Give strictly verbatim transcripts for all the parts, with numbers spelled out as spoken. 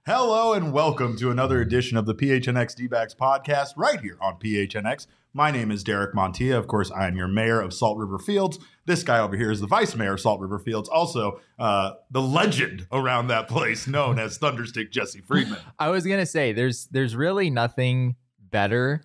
Hello and welcome to another edition of the P H N X D-Backs podcast right here on P H N X. My name is Derek Montilla. Of course, I am your mayor of Salt River Fields. This guy over here is the vice mayor of Salt River Fields, also uh, the legend around that place known as Thunderstick Jesse Friedman. I was going to say, there's there's really nothing better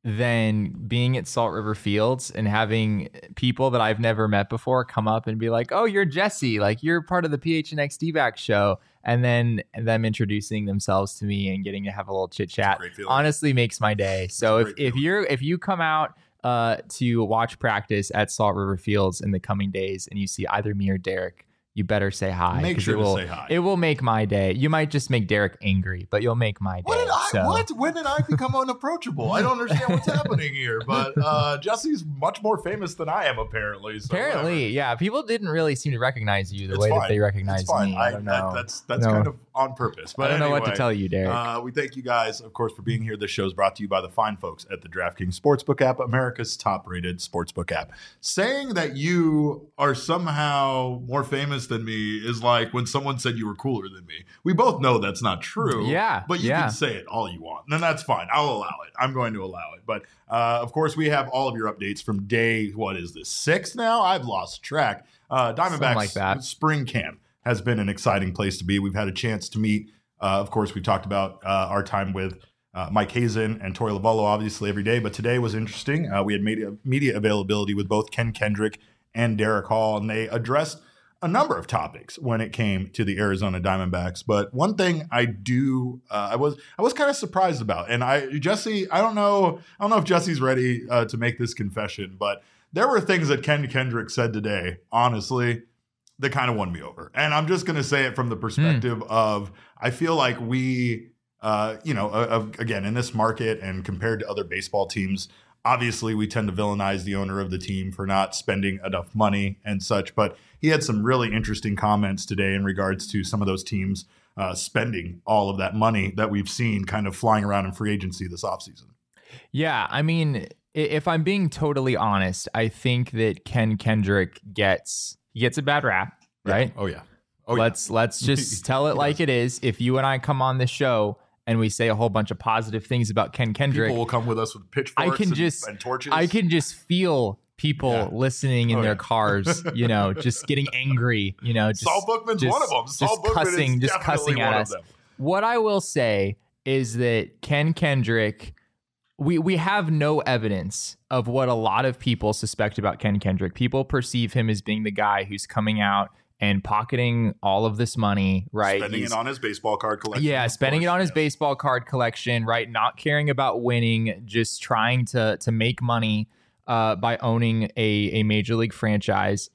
than being at Salt River Fields and having people that I've never met before come up and be like, oh, you're Jesse, like you're part of the P H N X D-Backs show. And then them introducing themselves to me and getting to have a little chit chat honestly makes my day. So if, if you're if you come out uh, to watch practice at Salt River Fields in the coming days and you see either me or Derek, you better say hi. Make sure it will, to say hi. It will make my day. You might just make Derek angry, but you'll make my day. What did I, so. what? When did I become unapproachable? I don't understand what's happening here. But uh, Jesse's much more famous than I am, apparently. So apparently, whatever. yeah. People didn't really seem to recognize you the it's way fine. that they recognize it's fine. me. I, I don't know. That, that's that's no. kind of on purpose. But I don't anyway, know what to tell you, Derek. Uh, we thank you guys, of course, for being here. This show is brought to you by the fine folks at the DraftKings Sportsbook app, America's top-rated sportsbook app. Saying that you are somehow more famous than me is like when someone said you were cooler than me. We both know that's not true. Yeah, but you yeah. can say it all you want, and that's fine. I'll allow it. I'm going to allow it. But uh, of course, we have all of your updates from day. What is this? Six now? I've lost track. Uh, Diamondbacks like that. spring camp has been an exciting place to be. We've had a chance to meet. Uh, of course, we talked about uh, our time with uh, Mike Hazen and Tori Lavallo, obviously, every day. But today was interesting. Uh, we had media, media availability with both Ken Kendrick and Derek Hall, and they addressed a number of topics when it came to the Arizona Diamondbacks. But one thing I do, uh, I was I was kind of surprised about, and I Jesse, I don't know, I don't know if Jesse's ready uh, to make this confession, but there were things that Ken Kendrick said today, honestly, that kind of won me over. And I'm just going to say it from the perspective mm. of, I feel like we, uh, you know, uh, again, in this market and compared to other baseball teams, obviously we tend to villainize the owner of the team for not spending enough money and such. But he had some really interesting comments today in regards to some of those teams uh, spending all of that money that we've seen kind of flying around in free agency this offseason. Yeah, I mean, if I'm being totally honest, I think that Ken Kendrick gets he gets a bad rap, right? Yeah. Oh yeah. Oh, let's yeah. let's just tell it like it is. If you and I come on this show and we say a whole bunch of positive things about Ken Kendrick, people will come with us with pitchforks I can and, just, and torches. I can just feel people yeah. listening in oh, their yeah. cars, you know, just getting angry, you know, just, Saul Bookman's just, one of them. Saul just Bookman cussing, is just cussing at us. What I will say is that Ken Kendrick, we we have no evidence of what a lot of people suspect about Ken Kendrick. People perceive him as being the guy who's coming out and pocketing all of this money, right? Spending He's, it on his baseball card collection. Yeah, spending course, it on his yes. baseball card collection, right? Not caring about winning, just trying to to make money uh, by owning a, a major league franchise.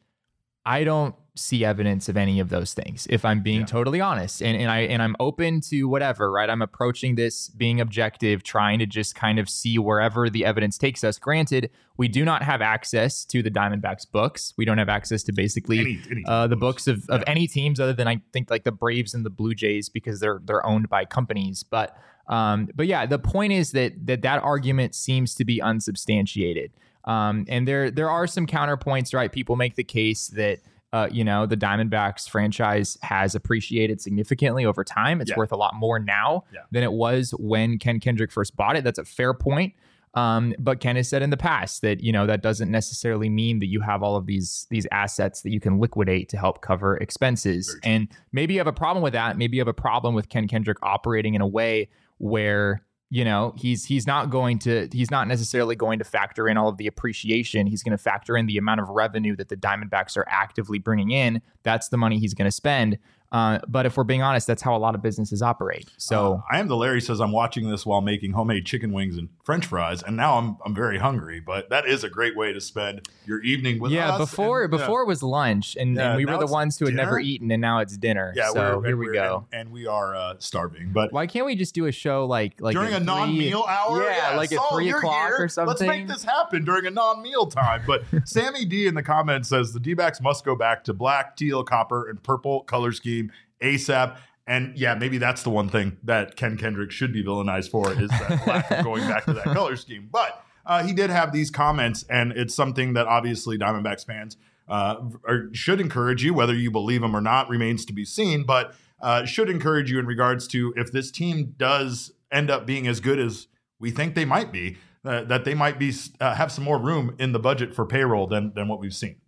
I don't see evidence of any of those things, if I'm being yeah. totally honest. And and I and I'm open to whatever, right? I'm approaching this being objective, trying to just kind of see wherever the evidence takes us. Granted, we do not have access to the Diamondbacks books. We don't have access to basically any, any uh, the books of, yeah. of any teams other than I think like the Braves and the Blue Jays, because they're they're owned by companies. But um, but yeah, the point is that that that argument seems to be unsubstantiated. Um, and there there are some counterpoints, right? People make the case that Uh, you know, the Diamondbacks franchise has appreciated significantly over time. It's yeah. worth a lot more now yeah. than it was when Ken Kendrick first bought it. That's a fair point. Um, but Ken has said in the past that, you know, that doesn't necessarily mean that you have all of these these assets that you can liquidate to help cover expenses. And maybe you have a problem with that. Maybe you have a problem with Ken Kendrick operating in a way where, you know, he's he's not going to he's not necessarily going to factor in all of the appreciation. He's going to factor in the amount of revenue that the Diamondbacks are actively bringing in. That's the money he's going to spend. Uh, but if we're being honest, that's how a lot of businesses operate. So uh, I am the Larry says I'm watching this while making homemade chicken wings and French fries, and now I'm I'm very hungry. But that is a great way to spend your evening with yeah, us. before and, before yeah. it was lunch, and, Yeah, and we were the ones who had dinner? never eaten, and now it's dinner. Yeah, so we're, here we we're, go. And, and we are uh, starving. But why can't we just do a show like like during a three, non-meal hour? Yeah, yeah like Saul, at three you're o'clock here. or something. Let's make this happen during a non-meal time. But Sammy D in the comments says the D-backs must go back to black, teal, copper, and purple color scheme ASAP. And yeah, maybe that's the one thing that Ken Kendrick should be villainized for, is that lack of going back to that color scheme. But uh, he did have these comments, and it's something that obviously Diamondbacks fans uh, are, should encourage you, whether you believe them or not remains to be seen. But uh, should encourage you in regards to if this team does end up being as good as we think they might be, uh, that they might be uh, have some more room in the budget for payroll than than what we've seen.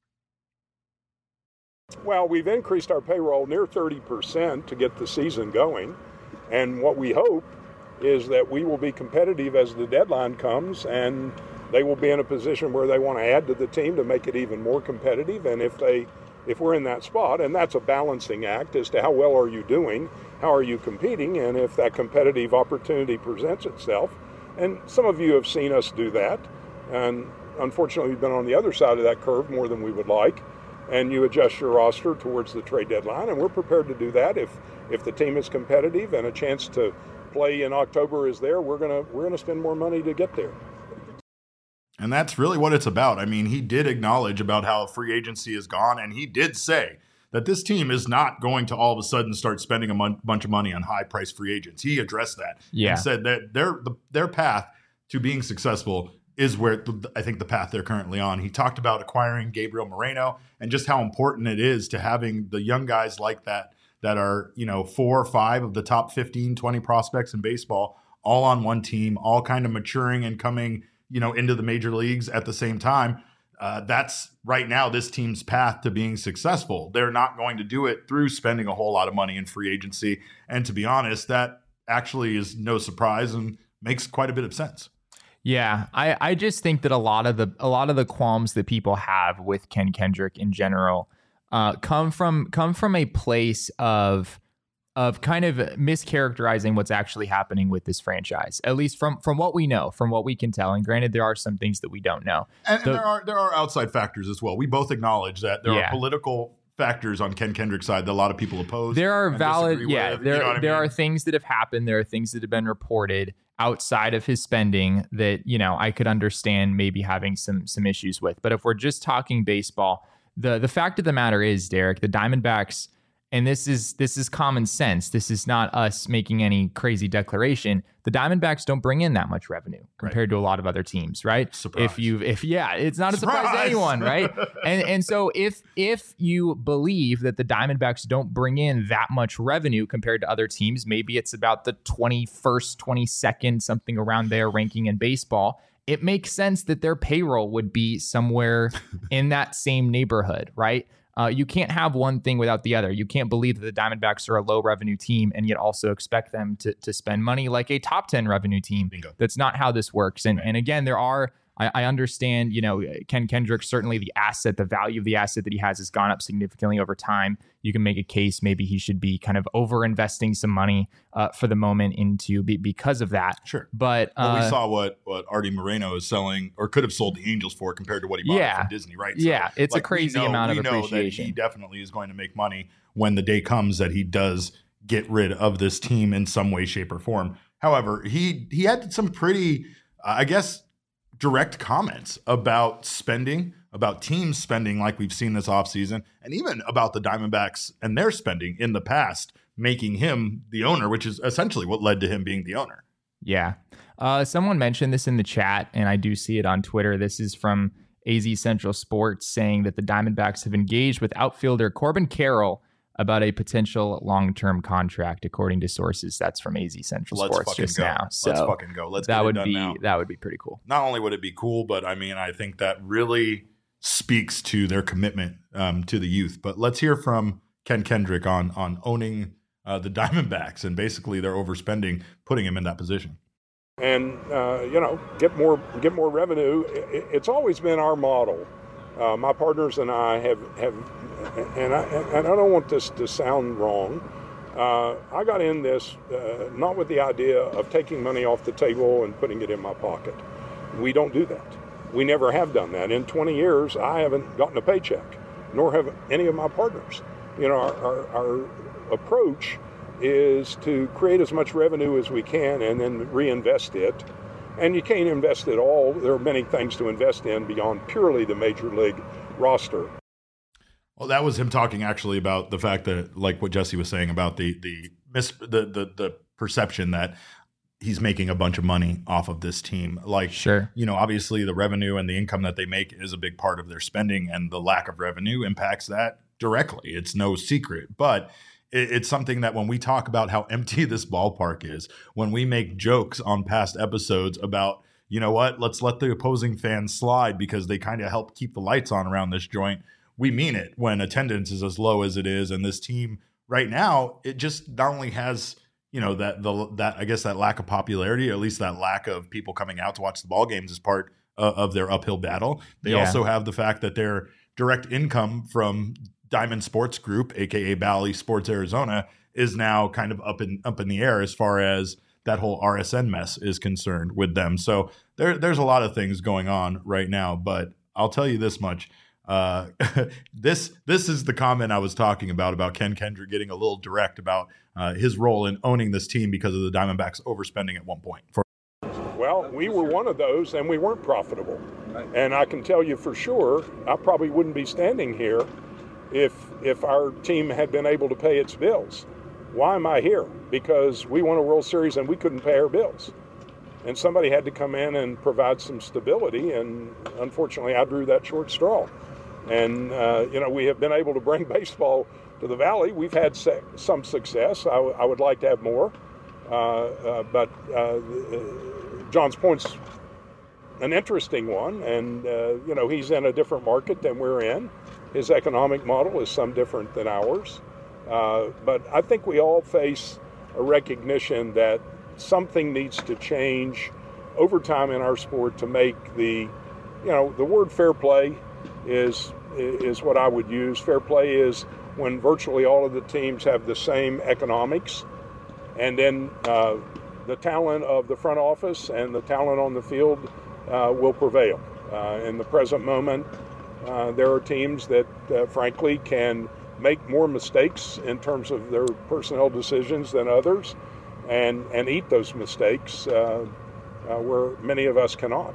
Well, we've increased our payroll near thirty percent to get the season going. And what we hope is that we will be competitive as the deadline comes, and they will be in a position where they want to add to the team to make it even more competitive. And if they, if we're in that spot, and that's a balancing act as to how well are you doing, how are you competing, and if that competitive opportunity presents itself. And some of you have seen us do that. And unfortunately, we've been on the other side of that curve more than we would like. And you adjust your roster towards the trade deadline, and we're prepared to do that. If if the team is competitive and a chance to play in October is there, we're gonna we're gonna spend more money to get there. And that's really what it's about. I mean, he did acknowledge about how free agency is gone, and he did say that this team is not going to all of a sudden start spending a mon- bunch of money on high-priced free agents. He addressed that yeah. and said that their the, their path to being successful is where the, I think the path they're currently on. He talked about acquiring Gabriel Moreno and just how important it is to having the young guys like that that are, you know, four or five of the top fifteen, twenty prospects in baseball, all on one team, all kind of maturing and coming, you know, into the major leagues at the same time. Uh, that's right now this team's path to being successful. They're not going to do it through spending a whole lot of money in free agency. And to be honest, that actually is no surprise and makes quite a bit of sense. Yeah, I, I just think that a lot of the a lot of the qualms that people have with Ken Kendrick in general uh, come from come from a place of of kind of mischaracterizing what's actually happening with this franchise, at least from from what we know, from what we can tell. And granted, there are some things that we don't know. And, the, and there are there are outside factors as well. We both acknowledge that there yeah. are political factors on Ken Kendrick's side that a lot of people oppose. There are valid, yeah. With, there you know there I mean? are things that have happened. There are things that have been reported outside of his spending that, you know, I could understand maybe having some some issues with. But if we're just talking baseball, the the fact of the matter is, Derek, the Diamondbacks, and this is this is common sense. This is not us making any crazy declaration. The Diamondbacks don't bring in that much revenue compared right. to a lot of other teams, right? Surprise. If you if yeah, it's not a surprise, surprise to anyone, right? and and so if if you believe that the Diamondbacks don't bring in that much revenue compared to other teams, maybe it's about the twenty-first, twenty-second, something around there ranking in baseball. It makes sense that their payroll would be somewhere in that same neighborhood, right? Uh, you can't have one thing without the other. You can't believe that the Diamondbacks are a low revenue team and yet also expect them to to spend money like a top ten revenue team. Bingo. That's not how this works. And right. and again, there are, I, I understand, you know, Ken Kendrick, certainly the asset, the value of the asset that he has has gone up significantly over time. You can make a case maybe he should be kind of over investing some money uh, for the moment into be, because of that. Sure. But well, uh, we saw what what Artie Moreno is selling or could have sold the Angels for compared to what he bought yeah, from Disney, right? So, yeah, it's like, a crazy know, amount of we know appreciation. That he definitely is going to make money when the day comes that he does get rid of this team in some way, shape, or form. However, he he had some pretty, uh, I guess, direct comments about spending, about teams spending like we've seen this offseason, and even about the Diamondbacks and their spending in the past, making him the owner, which is essentially what led to him being the owner. Yeah. Uh, someone mentioned this in the chat, and I do see it on Twitter. This is from A Z Central Sports saying that the Diamondbacks have engaged with outfielder Corbin Carroll about a potential long-term contract, according to sources. That's from A Z Central Let's Sports just go. now. So Let's fucking go. Let's that get would it done be now. That would be pretty cool. Not only would it be cool, but I mean, I think that really speaks to their commitment um, to the youth. But let's hear from Ken Kendrick on on owning uh, the Diamondbacks and basically their overspending, putting him in that position. And uh, you know, get more get more revenue. It's always been our model. Uh, my partners and I have have, and I and I don't want this to sound wrong. Uh, I got in this uh, not with the idea of taking money off the table and putting it in my pocket. We don't do that. We never have done that. In twenty years, I haven't gotten a paycheck, nor have any of my partners. You know, our, our, our approach is to create as much revenue as we can and then reinvest it. And you can't invest it all. There are many things to invest in beyond purely the major league roster. Well, that was him talking actually about the fact that, like what Jesse was saying about the the mis- the the, the perception that he's making a bunch of money off of this team. Like, sure, you know, obviously the revenue and the income that they make is a big part of their spending, and the lack of revenue impacts that directly. It's no secret. But it, it's something that when we talk about how empty this ballpark is, when we make jokes on past episodes about, you know what, let's let the opposing fans slide because they kind of help keep the lights on around this joint. We mean it when attendance is as low as it is. And this team right now, it just not only has, you know, that the that I guess that lack of popularity, or at least that lack of people coming out to watch the ball games, is part uh, of their uphill battle. They Yeah. also have the fact that their direct income from Diamond Sports Group, aka Bally Sports Arizona, is now kind of up in up in the air as far as that whole R S N mess is concerned with them. So there, there's a lot of things going on right now. But I'll tell you this much. Uh, this this is the comment I was talking about, about Ken Kendrick getting a little direct about uh, his role in owning this team because of the Diamondbacks overspending at one point. For- Well, we were one of those, and we weren't profitable. And I can tell you for sure, I probably wouldn't be standing here if if our team had been able to pay its bills. Why am I here? Because we won a World Series and we couldn't pay our bills. And somebody had to come in and provide some stability, and unfortunately I drew that short straw. And, uh, you know, we have been able to bring baseball to the Valley. We've had se- some success. I, w- I would like to have more. Uh, uh, but uh, John's point's an interesting one. And, uh, you know, he's in a different market than we're in. His economic model is some different than ours. Uh, but I think we all face a recognition that something needs to change over time in our sport to make the, you know, the word fair play is is what I would use. Fair play is when virtually all of the teams have the same economics, and then uh, the talent of the front office and the talent on the field uh, will prevail. Uh, in the present moment, uh, there are teams that, uh, frankly, can make more mistakes in terms of their personnel decisions than others, and, and eat those mistakes uh, uh, where many of us cannot.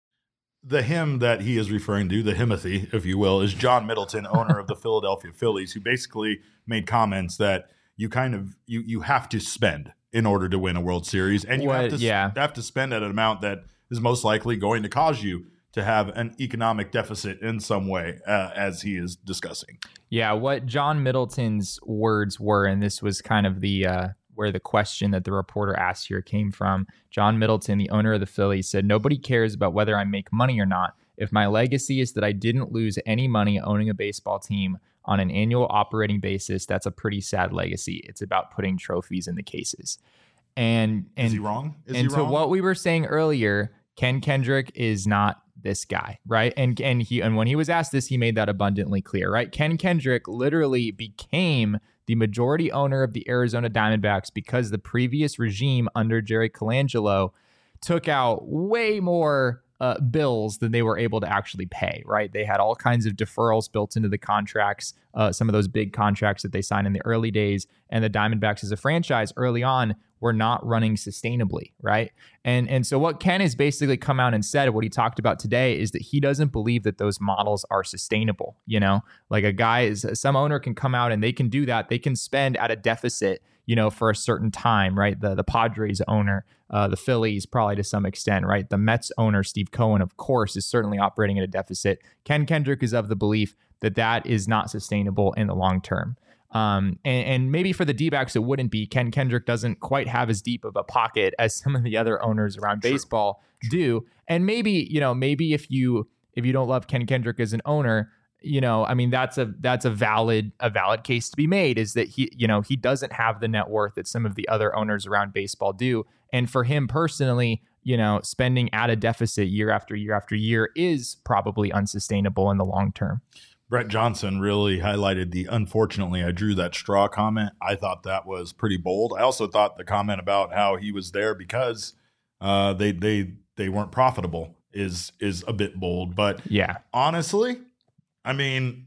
The him that he is referring to, the Himothy, if you will, is John Middleton, owner of the Philadelphia Phillies, who basically made comments that you kind of you you have to spend in order to win a World Series, and you What- have to yeah. have to spend at an amount that is most likely going to cause you to have an economic deficit in some way, uh, as he is discussing. Yeah, what John Middleton's words were, and this was kind of the uh, where the question that the reporter asked here came from. John Middleton, the owner of the Phillies, said, "Nobody cares about whether I make money or not. If my legacy is that I didn't lose any money owning a baseball team on an annual operating basis, that's a pretty sad legacy. It's about putting trophies in the cases." And and Is he wrong? Is and he to wrong? what we were saying earlier, Ken Kendrick is not this guy, right? And and he and when he was asked this, he made that abundantly clear, right? Ken Kendrick literally became the majority owner of the Arizona Diamondbacks because the previous regime under Jerry Colangelo took out way more uh, bills than they were able to actually pay, right? They had all kinds of deferrals built into the contracts, uh, some of those big contracts that they signed in the early days. And the Diamondbacks as a franchise early on were not running sustainably, right? And and so what Ken has basically come out and said, what he talked about today, is that he doesn't believe that those models are sustainable. You know, like a guy is, some owner can come out and they can do that. They can spend at a deficit, you know, for a certain time, right? The the Padres owner, uh, the Phillies probably to some extent, right? The Mets owner, Steve Cohen, of course, is certainly operating at a deficit. Ken Kendrick is of the belief that that is not sustainable in the long term. Um, and, and maybe for the D-backs, it wouldn't be. Ken Kendrick doesn't quite have as deep of a pocket as some of the other owners around True. baseball do. And maybe, you know, maybe if you if you don't love Ken Kendrick as an owner, you know, I mean, that's a that's a valid a valid case to be made, is that he, you know, he doesn't have the net worth that some of the other owners around baseball do. And for him personally, you know, spending at a deficit year after year after year is probably unsustainable in the long term. Brett Johnson really highlighted the "unfortunately I drew that straw" comment. I thought that was pretty bold. I also thought the comment about how he was there because uh, they they they weren't profitable is is a bit bold. But Yeah. honestly, I mean,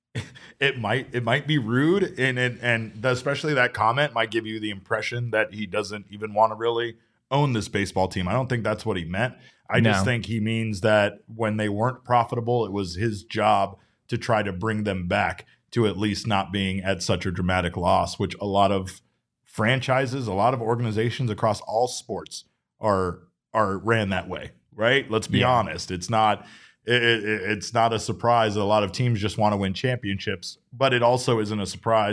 it might it might be rude, and it, and especially that comment might give you the impression that he doesn't even want to really own this baseball team. I don't think that's what he meant. I No. just think he means that when they weren't profitable, it was his job to try to bring them back to at least not being at such a dramatic loss, which a lot of franchises, a lot of organizations across all sports are are ran that way, right? Let's be Yeah. honest. It's not it, it, it's not a surprise that a lot of teams just want to win championships, but it also isn't a surprise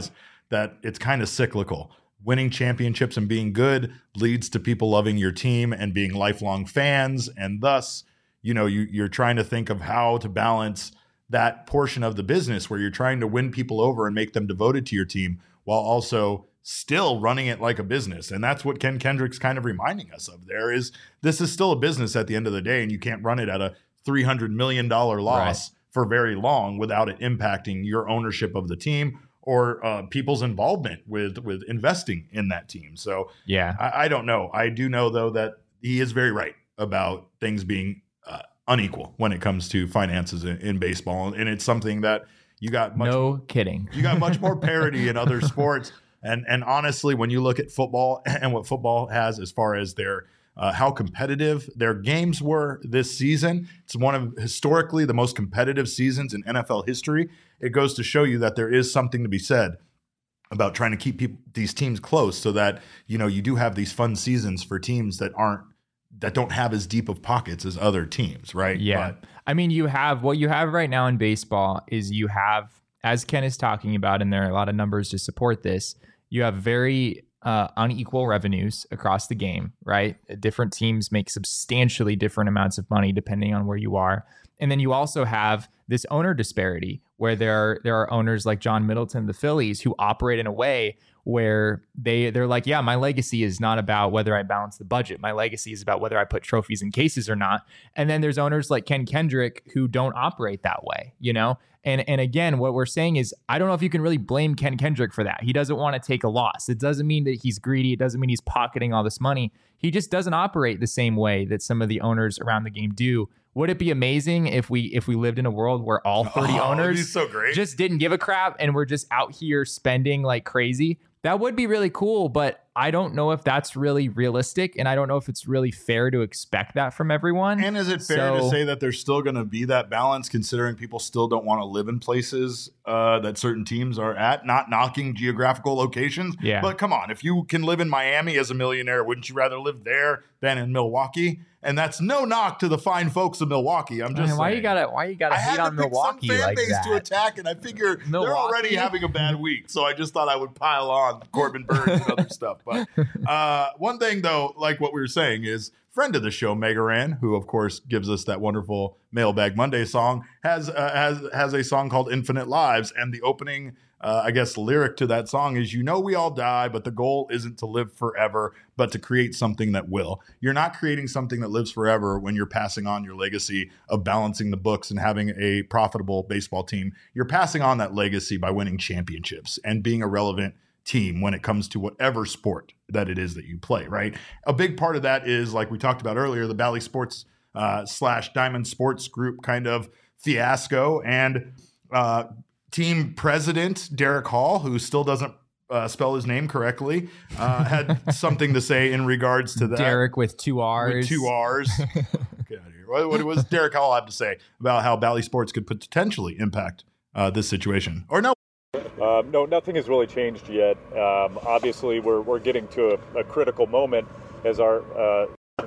that it's kind of cyclical. Winning championships and being good leads to people loving your team and being lifelong fans. And thus, you know, you, you're trying to think of how to balance that portion of the business where you're trying to win people over and make them devoted to your team while also still running it like a business. And that's what Ken Kendrick's kind of reminding us of there is this is still a business at the end of the day, and you can't run it at a three hundred million dollars loss right. for very long without it impacting your ownership of the team or uh, people's involvement with, with investing in that team. So yeah, I, I don't know. I do know, though, that he is very right about things being uh, unequal when it comes to finances in, in baseball. And it's something that you got much no kidding. You got much more parity in other sports. And and honestly, when you look at football and what football has as far as their uh, how competitive their games were this season, it's one of historically the most competitive seasons in N F L history. It goes to show you that there is something to be said about trying to keep people, these teams close so that, you know, you do have these fun seasons for teams that aren't that don't have as deep of pockets as other teams, right? Yeah. But, I mean, you have what you have right now in baseball is you have, as Ken is talking about, and there are a lot of numbers to support this, you have very uh, unequal revenues across the game, right? Different teams make substantially different amounts of money depending on where you are. And then you also have this owner disparity where there are, there are owners like John Middleton, the Phillies, who operate in a way where they, they're like, yeah, my legacy is not about whether I balance the budget. My legacy is about whether I put trophies in cases or not. And then there's owners like Ken Kendrick who don't operate that way, you know? And and again, what we're saying is, I don't know if you can really blame Ken Kendrick for that. He doesn't want to take a loss. It doesn't mean that he's greedy. It doesn't mean he's pocketing all this money. He just doesn't operate the same way that some of the owners around the game do. Would it be amazing if we if we lived in a world where all thirty oh, owners so great. just didn't give a crap and we're just out here spending like crazy? That would be really cool, but I don't know if that's really realistic, and I don't know if it's really fair to expect that from everyone. And is it fair so, to say that there's still going to be that balance, considering people still don't want to live in places uh, that certain teams are at? Not knocking geographical locations, yeah. But come on, if you can live in Miami as a millionaire, wouldn't you rather live there than in Milwaukee? And that's no knock to the fine folks of Milwaukee. I'm just Man, why saying. you gotta why you gotta I hate had to on pick Milwaukee some fan like base that? to attack, and I figure they're Milwaukee? already having a bad week, so I just thought I would pile on Corbin Burns and other stuff. But uh, one thing, though, like what we were saying, is friend of the show, Megaran, who of course gives us that wonderful Mailbag Monday song, has uh, has has a song called "Infinite Lives," and the opening. Uh, I guess lyric to that song is, you know, we all die, but the goal isn't to live forever, but to create something that will. You're not creating something that lives forever when you're passing on your legacy of balancing the books and having a profitable baseball team. You're passing on that legacy by winning championships and being a relevant team when it comes to whatever sport that it is that you play, right? A big part of that is, like we talked about earlier, the Bally Sports uh, slash Diamond Sports Group kind of fiasco. And uh team president Derek Hall, who still doesn't uh, spell his name correctly, uh, had something to say in regards to that. Derek with two R's. With two R's. Get out of here. What, what was Derek Hall have to say about how Bally Sports could potentially impact uh, this situation? Or no? Uh, no, nothing has really changed yet. Um, obviously, we're we're getting to a, a critical moment as our. Uh...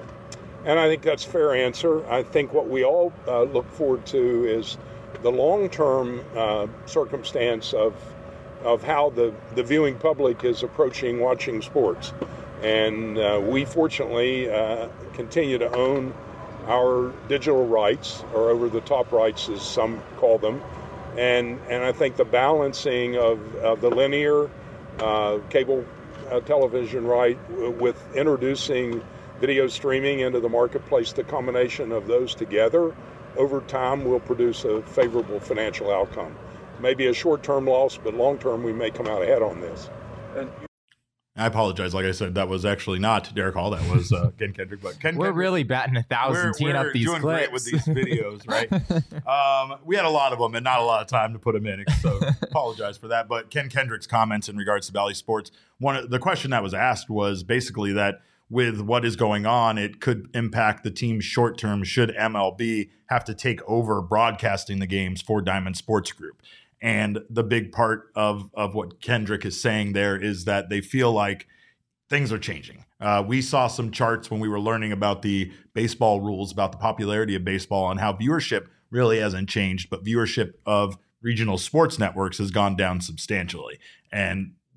And I think that's a fair answer. I think what we all uh, look forward to is the long-term uh, circumstance of of how the, the viewing public is approaching watching sports. And uh, we fortunately uh, continue to own our digital rights, or over-the-top rights as some call them. And and I think the balancing of, of the linear uh, cable uh, television right with introducing video streaming into the marketplace, the combination of those together over time will produce a favorable financial outcome. Maybe a short-term loss, but long-term we may come out ahead on this. And I apologize. Like I said, that was actually not Derek Hall. That was uh, Ken Kendrick. But Ken we're Kendrick, really batting a thousand, we're, teeing we're up these doing clips. great with these videos, right? um, we had a lot of them and not a lot of time to put them in, so apologize for that. But Ken Kendrick's comments in regards to Bally Sports, one of the question that was asked was basically that with what is going on, it could impact the team short term should M L B have to take over broadcasting the games for Diamond Sports Group. And the big part of, of what Kendrick is saying there is that they feel like things are changing. Uh, we saw some charts when we were learning about the baseball rules, about the popularity of baseball and how viewership really hasn't changed, but viewership of regional sports networks has gone down substantially. And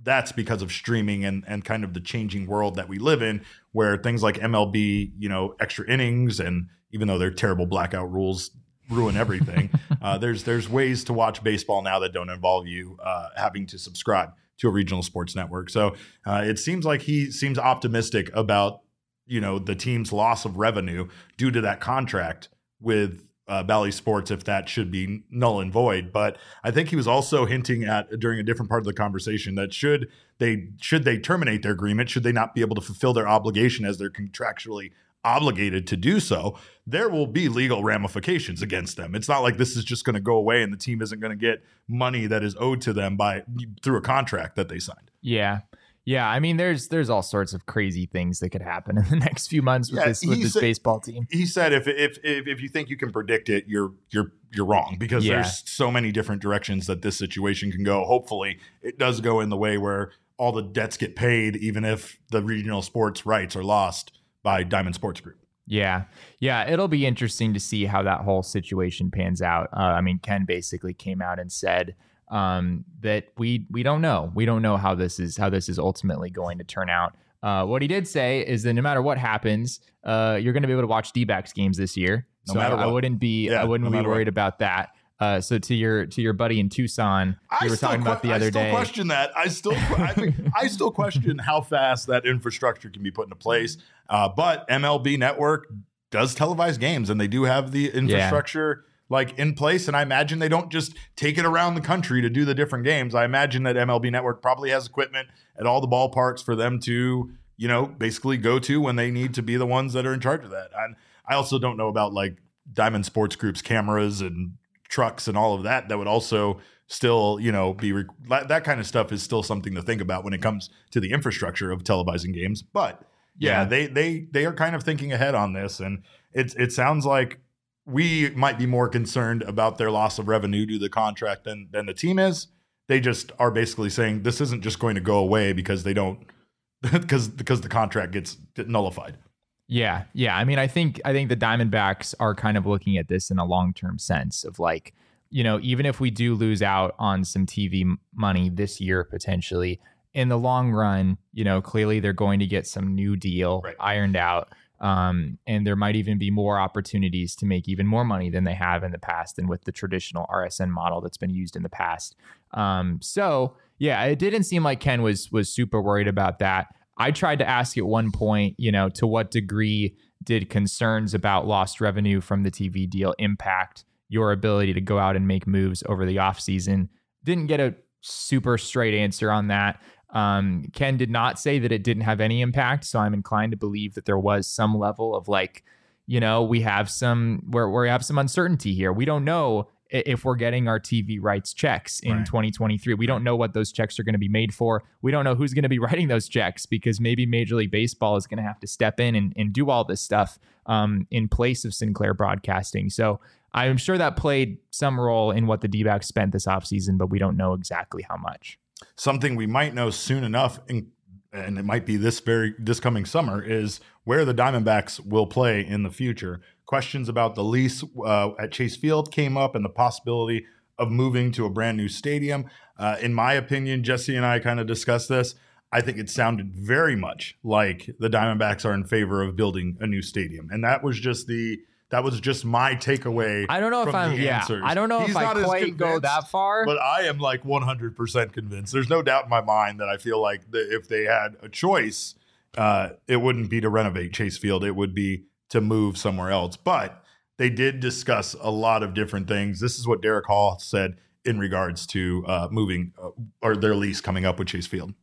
that's because of streaming and, and kind of the changing world that we live in, where things like M L B, you know, extra innings, and even though they're terrible blackout rules ruin everything, uh, there's there's ways to watch baseball now that don't involve you uh, having to subscribe to a regional sports network. So uh, it seems like he seems optimistic about, you know, the team's loss of revenue due to that contract with Uh, Bally Sports, if that should be null and void. But I think he was also hinting at, during a different part of the conversation, that should they should they terminate their agreement, should they not be able to fulfill their obligation as they're contractually obligated to do so, there will be legal ramifications against them. It's not like this is just going to go away and the team isn't going to get money that is owed to them by through a contract that they signed. Yeah. Yeah, I mean, there's there's all sorts of crazy things that could happen in the next few months with yeah, this with this said, baseball team. He said, if, if if if you think you can predict it, you're you're you're wrong, because yeah. there's so many different directions that this situation can go. Hopefully, it does go in the way where all the debts get paid, even if the regional sports rights are lost by Diamond Sports Group. Yeah, yeah, it'll be interesting to see how that whole situation pans out. Uh, I mean, Ken basically came out and said um that we we don't know we don't know how this is how this is ultimately going to turn out. Uh what he did say is that no matter what happens, uh you're going to be able to watch D-backs games this year. No so matter I, what. I wouldn't be yeah, I wouldn't no be worried what. about that. Uh so to your to your buddy in Tucson, I you were talking que- about the other I still day. question that. I still I, mean, I still question how fast that infrastructure can be put into place. Uh but M L B Network does televise games, and they do have the infrastructure yeah. like in place, and I imagine they don't just take it around the country to do the different games. I imagine that M L B Network probably has equipment at all the ballparks for them to, you know, basically go to when they need to be the ones that are in charge of that. And I also don't know about like Diamond Sports Group's cameras and trucks and all of that. That would also still, you know, be rec- that kind of stuff is still something to think about when it comes to the infrastructure of televising games. But yeah, yeah. they they they are kind of thinking ahead on this, and it's it sounds like we might be more concerned about their loss of revenue due to the contract than than the team is. They just are basically saying this isn't just going to go away because they don't because because the contract gets nullified. Yeah, yeah. I mean, I think I think the Diamondbacks are kind of looking at this in a long-term sense of like, you know, even if we do lose out on some T V money this year potentially, in the long run, you know, clearly they're going to get some new deal right. ironed out. Um, and there might even be more opportunities to make even more money than they have in the past and with the traditional R S N model that's been used in the past. Um, so, yeah, it didn't seem like Ken was was super worried about that. I tried to ask at one point, you know, to what degree did concerns about lost revenue from the T V deal impact your ability to go out and make moves over the offseason? Didn't get a super straight answer on that. Um, Ken did not say that it didn't have any impact, so I'm inclined to believe that there was some level of like, you know, we have some where we have some uncertainty here. We don't know if we're getting our T V rights checks in right. twenty twenty-three. We don't know what those checks are going to be made for. We don't know who's going to be writing those checks, because maybe Major League Baseball is going to have to step in and, and do all this stuff um, in place of Sinclair Broadcasting. So I'm sure that played some role in what the D-backs spent this offseason, but we don't know exactly how much. Something we might know soon enough, and it might be this very this coming summer, is where the Diamondbacks will play in the future. Questions about the lease uh, at Chase Field came up, and the possibility of moving to a brand new stadium. Uh, in my opinion, Jesse and I kind of discussed this. I think it sounded very much like the Diamondbacks are in favor of building a new stadium, and that was just the. That was just my takeaway. I don't know if I'm. Yeah, I don't know He's if I quite go that far. But I am like one hundred percent convinced. There's no doubt in my mind that I feel like the, if they had a choice, uh, it wouldn't be to renovate Chase Field. It would be to move somewhere else. But they did discuss a lot of different things. This is what Derek Hall said in regards to uh, moving uh, or their lease coming up with Chase Field.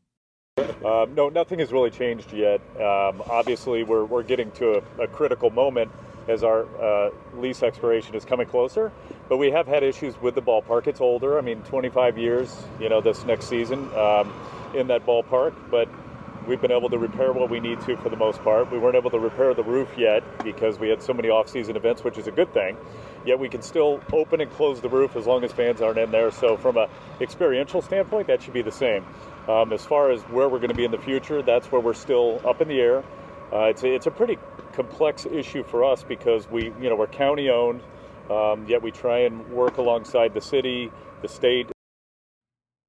Um, no, nothing has really changed yet. Um, obviously, we're we're getting to a, a critical moment as our uh, lease expiration is coming closer. But we have had issues with the ballpark. It's older. I mean, twenty-five years, you know, this next season um, in that ballpark. But we've been able to repair what we need to for the most part. We weren't able to repair the roof yet because we had so many off-season events, which is a good thing. Yet we can still open and close the roof as long as fans aren't in there. So from a experiential standpoint, that should be the same. Um, as far as where we're going to be in the future, that's where we're still up in the air. Uh, it's a, it's a pretty complex issue for us because we, you know, we're county owned, um, yet we try and work alongside the city, the state.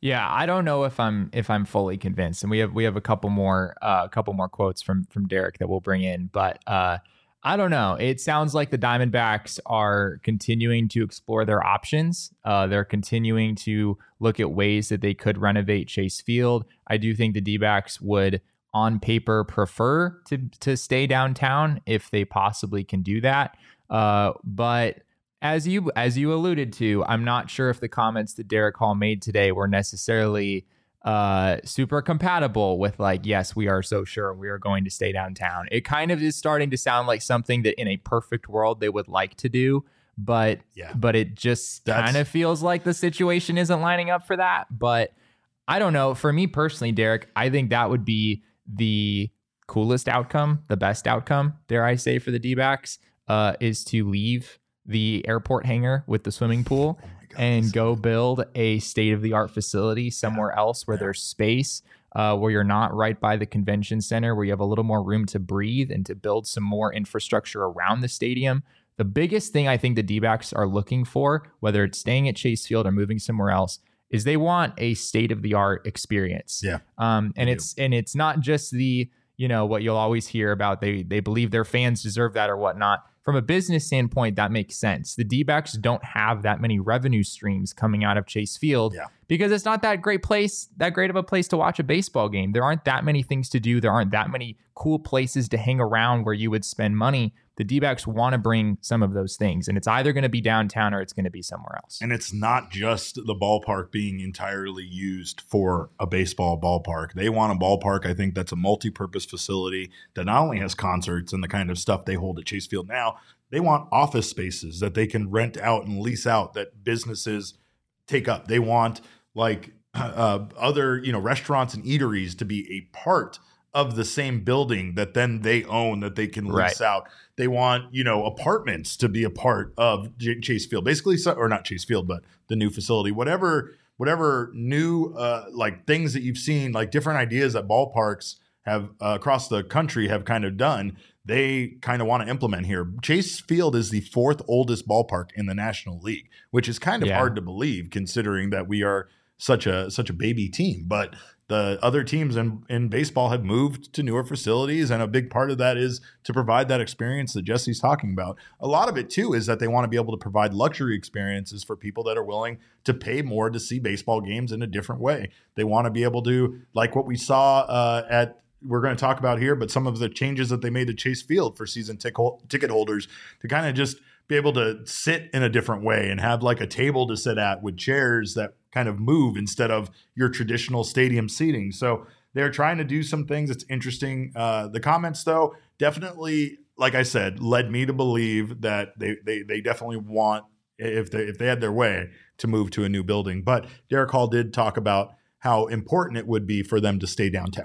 Yeah, I don't know if I'm if I'm fully convinced, and we have we have a couple more uh, a couple more quotes from from Derek that we'll bring in, but uh, I don't know. It sounds like the Diamondbacks are continuing to explore their options. Uh, they're continuing to look at ways that they could renovate Chase Field. I do think the D-backs would, on paper, prefer to to stay downtown if they possibly can do that, uh, but. As you as you alluded to, I'm not sure if the comments that Derek Hall made today were necessarily uh, super compatible with like, yes, we are so sure we are going to stay downtown. It kind of is starting to sound like something that in a perfect world they would like to do, but Yeah. but it just That's- kind of feels like the situation isn't lining up for that. But I don't know. For me personally, Derek, I think that would be the coolest outcome, the best outcome, dare I say, for the D-backs, uh, is to leave the airport hangar with the swimming pool Oh my God, and that's- go build a state-of-the-art facility somewhere else where there's space, uh, where you're not right by the convention center, where you have a little more room to breathe and to build some more infrastructure around the stadium. The biggest thing I think the D-backs are looking for, whether it's staying at Chase Field or moving somewhere else, is they want a state-of-the-art experience. Yeah, Um, and they it's and it's not just the, you know, what you'll always hear about they they believe their fans deserve that or whatnot. From a business standpoint, that makes sense. The D-backs don't have that many revenue streams coming out of Chase Field Yeah. because it's not that great place, that great of a place to watch a baseball game. There aren't that many things to do. There aren't that many cool places to hang around where you would spend money. The D-backs want to bring some of those things, and it's either going to be downtown or it's going to be somewhere else. And it's not just the ballpark being entirely used for a baseball ballpark. They want a ballpark, I think, that's a multi-purpose facility that not only has concerts and the kind of stuff they hold at Chase Field now, they want office spaces that they can rent out and lease out that businesses take up. They want like uh, other, you know, restaurants and eateries to be a part of the same building that then they own, that they can lease Right. out. They want, you know, apartments to be a part of J- Chase Field, basically, so, or not Chase Field, but the new facility, whatever, whatever new uh, like things that you've seen, like different ideas that ballparks have uh, across the country have kind of done. They kind of want to implement here. Chase Field is the fourth oldest ballpark in the National League, which is kind of Yeah. hard to believe considering that we are such a such a baby team. But the other teams in, in baseball have moved to newer facilities, and a big part of that is to provide that experience that Jesse's talking about. A lot of it, too, is that they want to be able to provide luxury experiences for people that are willing to pay more to see baseball games in a different way. They want to be able to, like what we saw uh, at we're going to talk about here, but some of the changes that they made to Chase Field for season tic- ticket holders to kind of just be able to sit in a different way and have like a table to sit at with chairs that kind of move instead of your traditional stadium seating. So they're trying to do some things. It's interesting. Uh, the comments, though, definitely, like I said, led me to believe that they they they definitely want, if they if they had their way, to move to a new building. But Derek Hall did talk about how important it would be for them to stay downtown.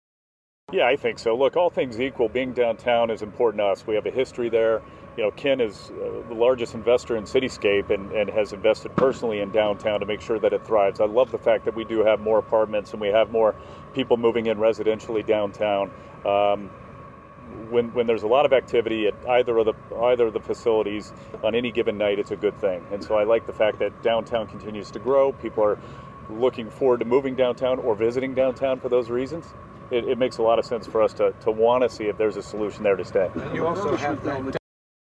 Yeah, I think so. Look, all things equal, being downtown is important to us. We have a history there. You know, Ken is uh, the largest investor in Cityscape and, and has invested personally in downtown to make sure that it thrives. I love the fact that we do have more apartments and we have more people moving in residentially downtown. Um, when when there's a lot of activity at either of the either of the facilities on any given night, it's a good thing. And so I like the fact that downtown continues to grow. People are looking forward to moving downtown or visiting downtown for those reasons. It, it makes a lot of sense for us to, to want to see if there's a solution there to stay. You also have the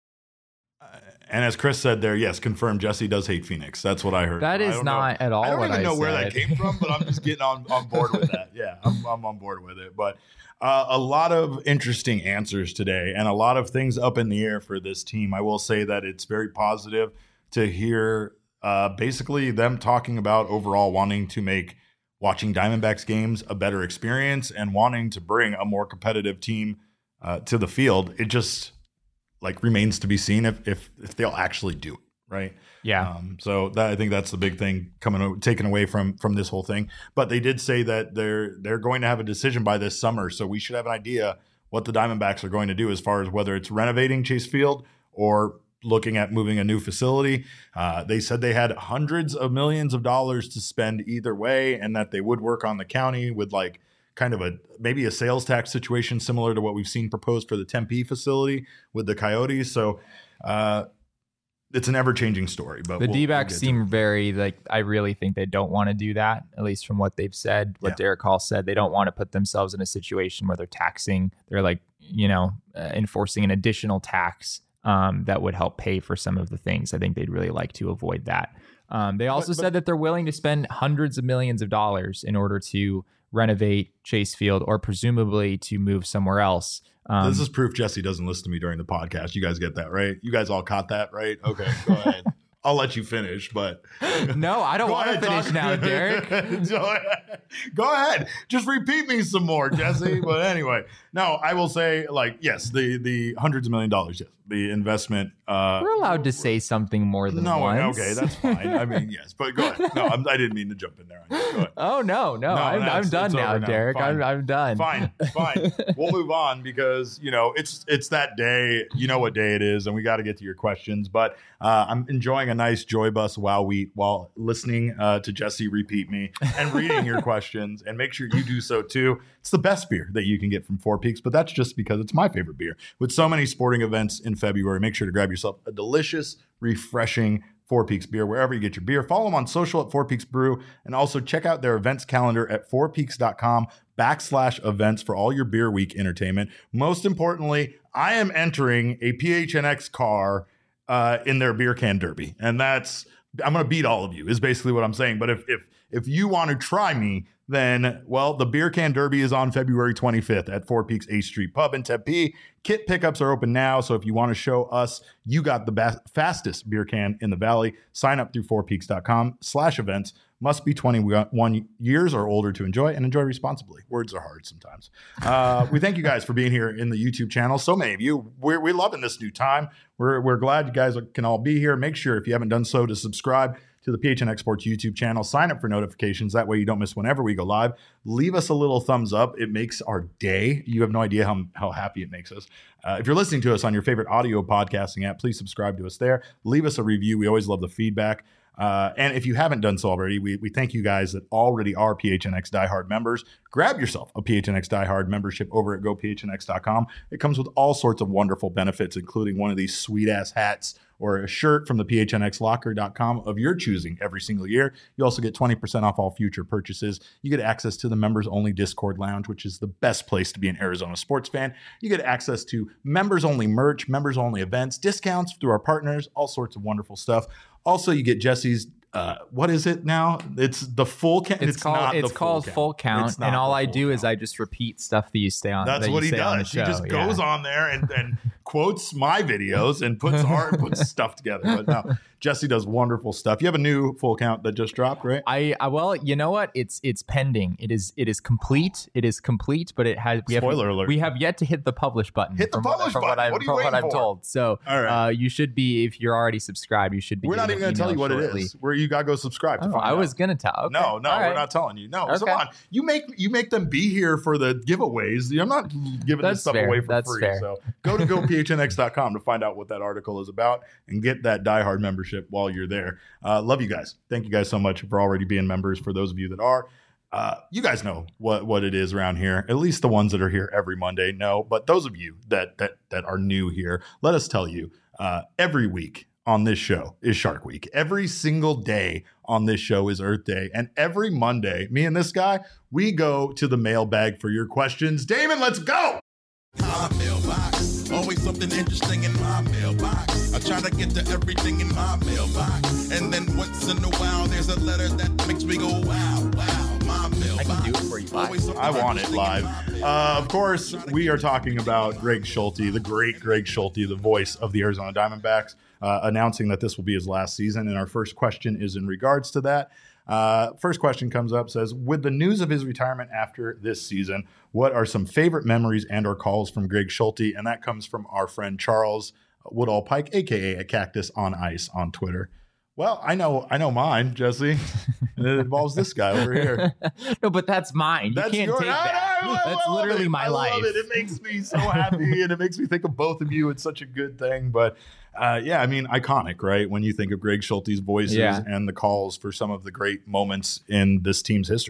And as Chris said there, yes, confirmed, Jesse does hate Phoenix. That's what I heard. That I is don't know- not at all I don't what even I know where that said. came from, but I'm just getting on, on board with that. Yeah, I'm, I'm on board with it. But uh, a lot of interesting answers today and a lot of things up in the air for this team. I will say that it's very positive to hear uh, basically them talking about overall wanting to make watching Diamondbacks games a better experience and wanting to bring a more competitive team uh, to the field. It just like remains to be seen if if, if they'll actually do it, right? Yeah. Um, so that, I think that's the big thing coming taken away from from this whole thing. But they did say that they're they're going to have a decision by this summer, so we should have an idea what the Diamondbacks are going to do as far as whether it's renovating Chase Field or looking at moving a new facility. Uh, they said they had hundreds of millions of dollars to spend either way, and that they would work on the county with like kind of a maybe a sales tax situation similar to what we've seen proposed for the Tempe facility with the Coyotes. So uh, it's an ever-changing story. But the we'll, D-backs we'll seem very like. I really think they don't want to do that. At least from what they've said, what Yeah. Derek Hall said, they don't want to put themselves in a situation where they're taxing. They're like, you know, uh, enforcing an additional tax um, that would help pay for some of the things. I think they'd really like to avoid that. Um, they also But- but- said that they're willing to spend hundreds of millions of dollars in order to renovate Chase Field or presumably to move somewhere else. Um, This is proof Jesse doesn't listen to me during the podcast. You guys get that, right? You guys all caught that, right? Okay, go ahead. I'll let you finish, but no, I don't Go want to ahead, finish talk. now, Derek. Go ahead. Go ahead. Just repeat me some more, Jesse. But anyway, no, I will say, like, yes, the the hundreds of million dollars, yes, the investment. Uh, We're allowed to say something more than no, once. okay, that's fine. I mean, yes, but go ahead. No, I'm, I didn't mean to jump in there. Go ahead. Oh no, no, No, I'm, no, I'm it's- done it's now, over now. Derek. I'm, Fine. I'm done. Fine, fine. We'll move on because you know it's it's that day. You know what day it is, and we got to get to your questions. But uh, I'm enjoying a nice Joy Bus Wow Wheat while listening uh, to Jesse repeat me and reading your questions. And make sure you do so too. It's the best beer that you can get from Four Peaks, but that's just because it's my favorite beer. With so many sporting events in February, make sure to grab yourself a delicious, refreshing Four Peaks beer wherever you get your beer. Follow them on social at Four Peaks Brew, and also check out their events calendar at fourpeaks.com backslash events for all your beer week entertainment. Most importantly, I am entering a P H N X car uh, in their beer can derby, and that's I'm going to beat all of you is basically what I'm saying. But if if if you want to try me, then, well, the Beer Can Derby is on February twenty-fifth at Four Peaks eighth Street Pub in Tempe. Kit pickups are open now, so if you want to show us you got the best, fastest beer can in the valley, sign up through fourpeaks.com slash events. Must be twenty-one years or older to enjoy, and enjoy responsibly. Words are hard sometimes. Uh, we thank you guys for being here in the YouTube channel. So many of you. We're, we're loving this new time. We're, we're glad you guys can all be here. Make sure, if you haven't done so, to subscribe to the P H N X Sports YouTube channel. Sign up for notifications. That way you don't miss whenever we go live. Leave us a little thumbs up. It makes our day. You have no idea how, how happy it makes us. Uh, if you're listening to us on your favorite audio podcasting app, please subscribe to us there. Leave us a review. We always love the feedback. Uh, and if you haven't done so already, we, we thank you guys that already are P H N X Diehard members. Grab yourself a P H N X Diehard membership over at go p h n x dot com. It comes with all sorts of wonderful benefits, including one of these sweet-ass hats or a shirt from the p h n x locker dot com of your choosing every single year. You also get twenty percent off all future purchases. You get access to the members-only Discord lounge, which is the best place to be an Arizona sports fan. You get access to members-only merch, members-only events, discounts through our partners, all sorts of wonderful stuff. Also, you get Jesse's, uh, what is it now? It's the full count. It's, It's, called not it's the called full full count, count, It's not and all the I full do is count. I just repeat stuff that you say on. That's that what you he say on the does. He show. just Yeah. goes on there and, and quotes my videos and puts art, puts stuff together. But no, Jesse does wonderful stuff. You have a new full count that just dropped, right? I, I well, you know what? It's it's pending. It is it is complete. It is complete, but it has we Spoiler have, alert. We have yet to hit the publish button. Hit the from what- publish from What button. I'm, What are you from what waiting I'm for? told. So All right. uh, you should be, if you're already subscribed, you should be. We're not getting even going an to tell you email what shortly. it is. Where you got to go subscribe to Oh, find I out. was gonna tell. Okay. No, no, All we're right. not telling you. No, Okay. come on. You make you make them be here for the giveaways. I'm not giving That's this stuff fair. away for That's free. fair. So go to go p h n x dot com to find out what that article is about and get that diehard membership while you're there. Uh, love you guys. Thank you guys so much for already being members. For those of you that are, uh, you guys know what what it is around here. At least the ones that are here every Monday know. But those of you that that that are new here, let us tell you, uh, every week on this show is Shark Week. Every single day on this show is Earth Day. And every Monday, me and this guy, we go to the mailbag for your questions. Damon, let's go. My mailbox, always something interesting in my mailbox. I try to get to everything in my mailbox. And then once in a while, there's a letter that makes me go, wow, wow, my mailbox. I can do it for you live. Always something I want it interesting in live. my mailbox. Uh, of course, we are talking about Greg Schulte, the great Greg Schulte, the voice of the Arizona Diamondbacks, uh, announcing that this will be his last season. And our first question is in regards to that. Uh, first question comes up, says, with the news of his retirement after this season, what are some favorite memories and or calls from Greg Schulte? And that comes from our friend Charles Woodall Pike, a k a. a Cactus on Ice on Twitter. Well, I know I know mine, Jesse. And it involves this guy over here. No, but that's mine. You That's can't your- take I- that. I- I- I That's love literally it. my I life. Love it. It makes me so happy, and it makes me think of both of you. It's such a good thing. But uh, yeah, I mean, iconic, right? When you think of Greg Schulte's voices Yeah. and the calls for some of the great moments in this team's history.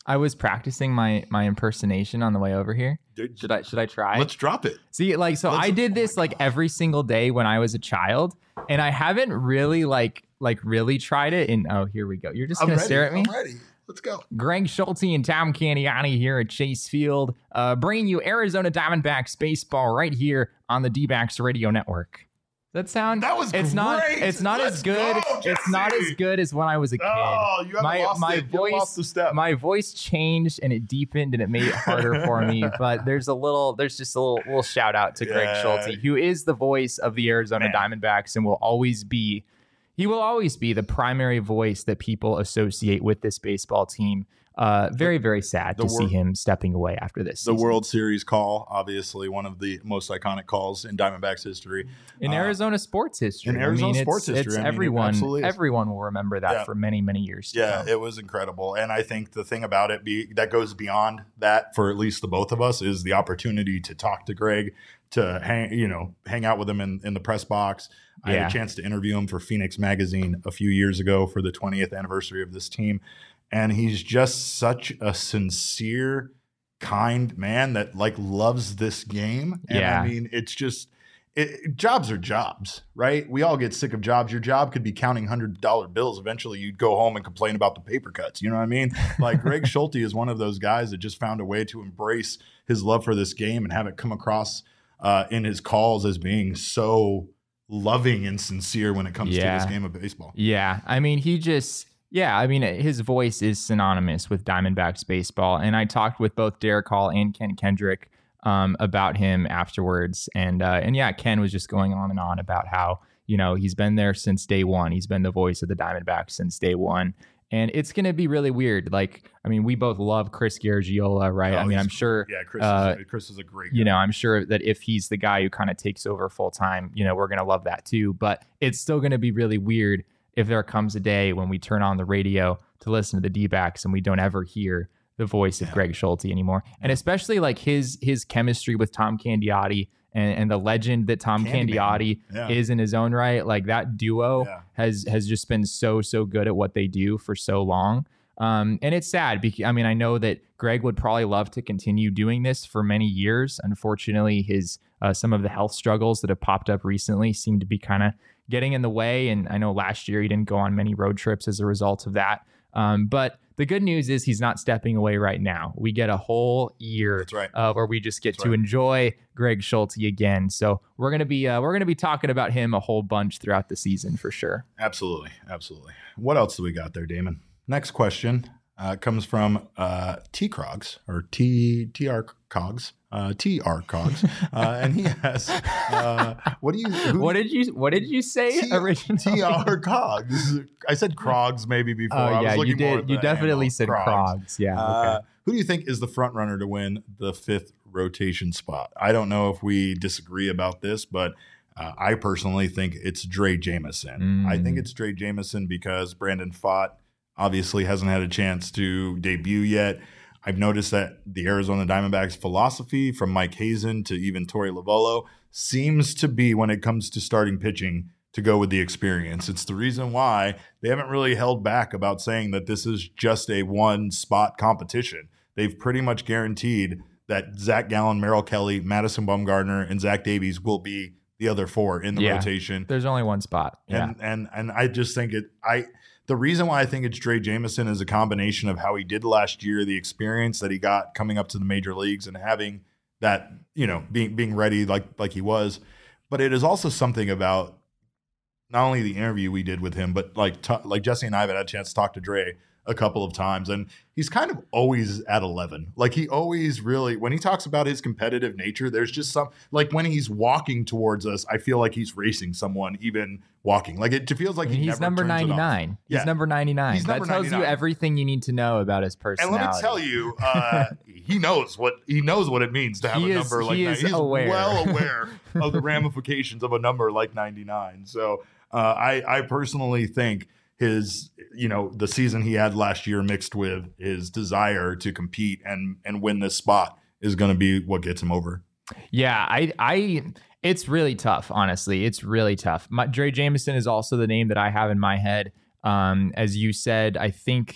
I was practicing my my impersonation on the way over here. Dude, Should I should I try? Let's drop it. See, like, so Let's- I did oh this my like God. every single day when I was a child, and I haven't really like like really tried it. And oh, here we go. You're just I'm gonna ready. stare at me. I'm ready. Let's go. Greg Schulte and Tom Candiani here at Chase Field, uh, bringing you Arizona Diamondbacks baseball right here on the D-backs Radio Network. Does that sound? That was It's not. great. It's not Let's as good. go, it's not Jesse. as good as when I was a kid. Oh, you haven't my lost my it. You haven't voice, lost the step. my voice changed and it deepened and it made it harder for me. But there's a little, there's just a little, little shout out to Greg Yeah. Schulte, who is the voice of the Arizona Man. Diamondbacks and will always be. He will always be the primary voice that people associate with this baseball team. Uh, very, very sad the to see wor- him stepping away after this The season. World Series call, obviously one of the most iconic calls in Diamondbacks history. in Uh, Arizona sports history. in Arizona I mean, sports it's, history, it's I mean, it everyone. absolutely is. Everyone will remember that Yeah. for many, many years. to Yeah, come. it was incredible. And I think the thing about it be, that goes beyond that for at least the both of us is the opportunity to talk to Greg, to hang, you know, hang out with him in, in the press box. I Yeah. had a chance to interview him for Phoenix Magazine a few years ago for the twentieth anniversary of this team. And he's just such a sincere, kind man that like loves this game. And Yeah. I mean, it's just it, jobs are jobs, right? We all get sick of jobs. Your job could be counting hundred dollar bills. Eventually, you'd go home and complain about the paper cuts. You know what I mean? Like Greg Schulte is one of those guys that just found a way to embrace his love for this game and have it come across uh, in his calls as being so loving and sincere when it comes Yeah. to this game of baseball. Yeah, I mean, he just, yeah, I mean, his voice is synonymous with Diamondbacks baseball. And I talked with both Derek Hall and Ken Kendrick um, about him afterwards. And, uh, and yeah, Ken was just going on and on about how, you know, he's been there since day one. He's been the voice of the Diamondbacks since day one. And it's going to be really weird. Like, I mean, we both love Chris Garagiola, right? Oh, I mean, he's- I'm sure, Yeah, Chris, uh, is, Chris is a great you guy. know, I'm sure that if he's the guy who kind of takes over full time, you know, we're going to love that too. But it's still going to be really weird if there comes a day when we turn on the radio to listen to the D-backs and we don't ever hear the voice of Yeah. Greg Schulte anymore. And especially like his his chemistry with Tom Candiotti and, and the legend that Tom Candyman. Candiotti Yeah. is in his own right. Like that duo Yeah. has has just been so, so good at what they do for so long. Um, and it's sad because, I mean, I know that Greg would probably love to continue doing this for many years. Unfortunately, his uh, some of the health struggles that have popped up recently seem to be kind of getting in the way. And I know last year he didn't go on many road trips as a result of that. Um, but the good news is he's not stepping away right now. We get a whole year That's right. uh, where we just get That's to right. enjoy Greg Schulte again. So we're gonna be uh, we're gonna be talking about him a whole bunch throughout the season for sure. Absolutely. Absolutely. What else do we got there, Damon? Next question uh, comes from uh, T Crogs or T T R Cogs, uh, T R Cogs, uh, and he has, uh, what do you? Who, What did you What did you say T- originally? T R Cogs. I said Crogs maybe before. Oh I was yeah, you looking more at did. You the definitely handle, said Crogs. Crogs. Yeah. Uh, okay. Who do you think is the front runner to win the fifth rotation spot? I don't know if we disagree about this, but uh, I personally think it's Dre Jameson. I think Mm. it's Dre Jameson because Brandon Pfaadt obviously hasn't had a chance to debut yet. I've noticed that the Arizona Diamondbacks philosophy from Mike Hazen to even Torey Lovullo seems to be when it comes to starting pitching to go with the experience. It's the reason why they haven't really held back about saying that this is just a one spot competition. They've pretty much guaranteed that Zach Gallen, Merrill Kelly, Madison Bumgarner, and Zach Davies will be the other four in the Yeah. rotation. There's only one spot. Yeah. And and and I just think it I the reason why I think it's Dre Jameson is a combination of how he did last year, the experience that he got coming up to the major leagues and having that, you know, being being ready like like he was. But it is also something about not only the interview we did with him, but like t- like Jesse and I have had a chance to talk to Dre a couple of times, and he's kind of always at eleven. Like he always really, when he talks about his competitive nature, there's just some, like when he's walking towards us, I feel like he's racing someone even walking. Like it feels like I mean, he he's never number turns it off. ninety-nine. He's Yeah. number ninety-nine. He's that number tells you ninety-nine. everything you need to know about his And personality. let me tell you, uh, he knows what he knows what it means to have He a is- number like he that. is He's aware. well aware of the ramifications of a number like ninety-nine. So uh, I, I personally think his, you know, the season he had last year mixed with his desire to compete and and win this spot is going to be what gets him over. Yeah, I, I, it's really tough. Honestly, it's really tough. My, Dre Jameson is also the name that I have in my head. Um, as you said, I think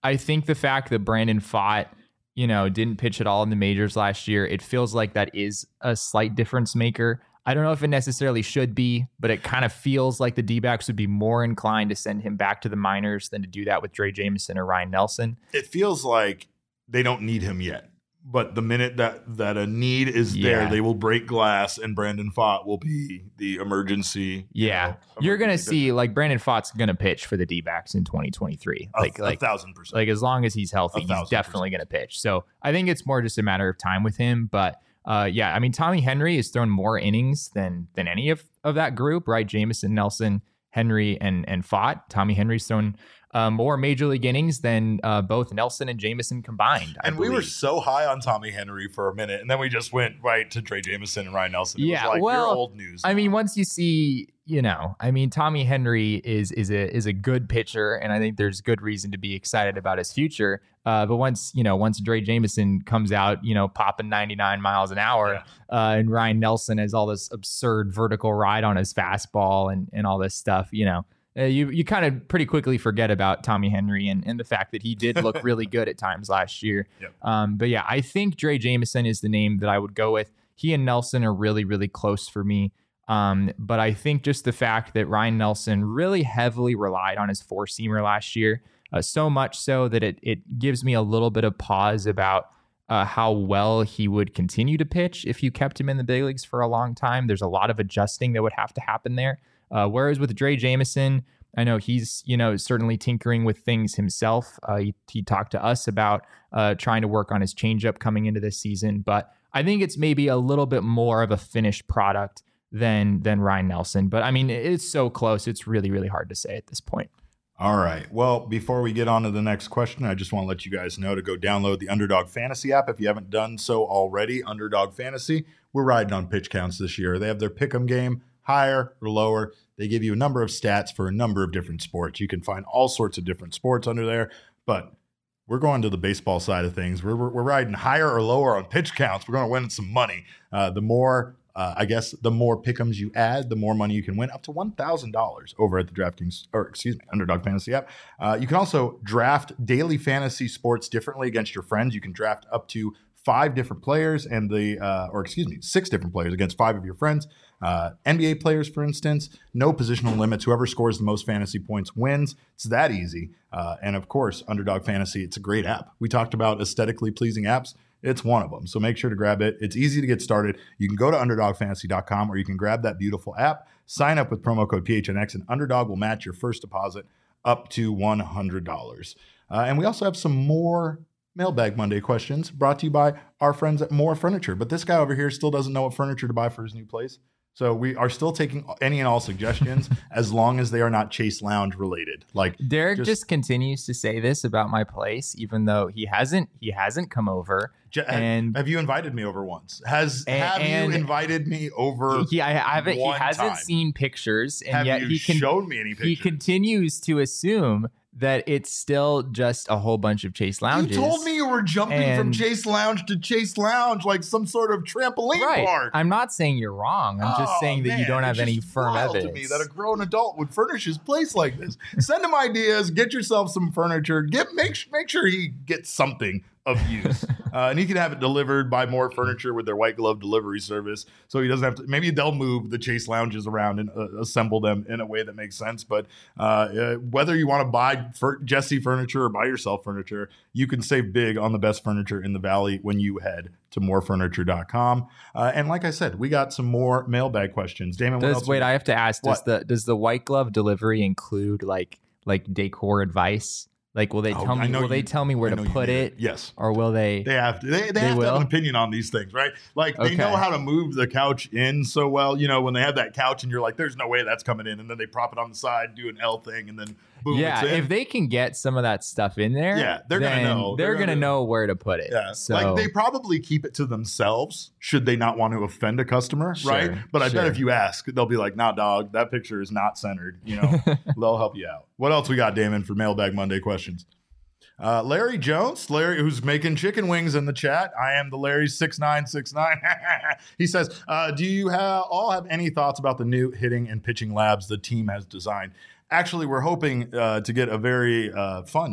I think the fact that Brandon Pfaadt, you know, didn't pitch at all in the majors last year, it feels like that is a slight difference maker. I don't know if it necessarily should be, but it kind of feels like the D-backs would be more inclined to send him back to the minors than to do that with Drey Jameson or Ryan Nelson. It feels like they don't need him yet. But the minute that, that a need is there, Yeah. they will break glass, and Brandon Pfaadt will be the emergency. Yeah. You know, You're going to emergency see, like, Brandon Pfaadt's going to pitch for the D-backs in twenty twenty-three. A, Like, a like, thousand percent. like as long as he's A healthy, he's thousand definitely going to pitch. So I think it's more just a matter of time with him. But uh, yeah, I mean, Tommy Henry has thrown more innings than than any of, of that group, right? Jameson, Nelson, Henry, and and Pfaadt. Tommy Henry's thrown uh, more major league innings than uh, both Nelson and Jameson combined. I and we were believe. so high on Tommy Henry for a minute, and then we just went right to Drey Jameson and Ryan Nelson. It Yeah, was like, well, you're old news. I mean, once you see, you know, I mean, Tommy Henry is is a is a good pitcher, and I think there's good reason to be excited about his future. Uh, but once you know, once Drey Jameson comes out, you know, popping ninety-nine miles an hour, Yeah. uh, and Ryan Nelson has all this absurd vertical ride on his fastball and and all this stuff, you know. Uh, you you kind of pretty quickly forget about Tommy Henry and, and the fact that he did look really good at times last year. Yep. Um, but yeah, I think Drey Jameson is the name that I would go with. He and Nelson are really, really close for me. Um, but I think just the fact that Ryan Nelson really heavily relied on his four-seamer last year, uh, so much so that it it gives me a little bit of pause about uh, how well he would continue to pitch if you kept him in the big leagues for a long time. There's a lot of adjusting that would have to happen there. Uh, whereas with Drey Jameson, I know he's, you know, certainly tinkering with things himself. Uh, he, he talked to us about uh, trying to work on his changeup coming into this season, but I think it's maybe a little bit more of a finished product than than Ryan Nelson. But I mean, it's so close. It's really, really hard to say at this point. All right. Well, before we get on to the next question, I just want to let you guys know to go download the Underdog Fantasy app if you haven't done so already. Underdog Fantasy. We're riding on pitch counts this year. They have their pick'em game, higher or lower. They give you a number of stats for a number of different sports. You can find all sorts of different sports under there, but we're going to the baseball side of things. We're, we're, we're riding higher or lower on pitch counts. We're going to win some money. Uh, the more, uh, I guess, the more pick'ems you add, the more money you can win, up to one thousand dollars over at the DraftKings, or excuse me, Underdog Fantasy app. Uh, you can also draft daily fantasy sports differently against your friends. You can draft up to five different players and the, uh, or excuse me, six different players against five of your friends. Uh, N B A players, for instance, no positional limits. Whoever scores the most fantasy points wins. It's that easy. Uh, and of course, Underdog Fantasy, it's a great app. We talked about aesthetically pleasing apps. It's one of them. So make sure to grab it. It's easy to get started. You can go to underdog fantasy dot com or you can grab that beautiful app, sign up with promo code P H N X, and Underdog will match your first deposit up to one hundred dollars. Uh, and we also have some more Mailbag Monday questions brought to you by our friends at More Furniture. But this guy over here still doesn't know what furniture to buy for his new place. So we are still taking any and all suggestions as long as they are not Chase Lounge related. Like Derek just, just continues to say this about my place, even though he hasn't he hasn't come over. j- And have you invited me over once? Has And- have and- you invited me over? he I haven't he one hasn't time? seen pictures, and have yet you he can shown me any pictures? he continues to assume that it's still just a whole bunch of Chase lounges. You told me you were jumping from And- Chase Lounge to Chase Lounge like some sort of trampoline Right. park. I'm not saying you're wrong. I'm just Oh, saying that you man, don't have it's any just firm wild evidence. to me that a grown adult would furnish his place like this. Send him ideas. Get yourself some furniture. Get make make sure he gets something of use, uh, and he can have it delivered by More Furniture with their white glove delivery service. So he doesn't have to. Maybe they'll move the Chase lounges around and uh, assemble them in a way that makes sense. But uh, uh, whether you want to buy fur- Jesse furniture or buy yourself furniture, you can save big on the best furniture in the valley when you head to more furniture dot com. Uh, and like I said, we got some more mailbag questions. Damon, what Does else wait? we- I have to ask. Does What? the does the white glove delivery include like like decor advice? Like, will they Oh, tell I me? know Will they you- tell me where I to know you put need it? Yes. Or will they? They have to. They, they, They have to will? have an opinion on these things, right? Like they Okay. know how to move the couch in so well. You know, when they have that couch and you're like, "There's no way that's coming in," and then they prop it on the side, do an L thing, and then boom, yeah, it's in. if they can get some of that stuff in there, Yeah, they're gonna then know. They're, They're gonna, gonna- know where to put it. Yeah, So like they probably keep it to themselves should they not want to offend a customer, Sure, right? But I sure. bet if you ask, they'll be like, "Nah, dog, that picture is not centered." You know, they'll help you out. What else we got, Damon, for Mailbag Monday questions? Uh, Larry Jones, Larry, who's making chicken wings in the chat. I am the Larry six nine six nine. He says, uh, "Do you ha- all have any thoughts about the new hitting and pitching labs the team has designed?" Actually, we're hoping uh, to get a very uh, fun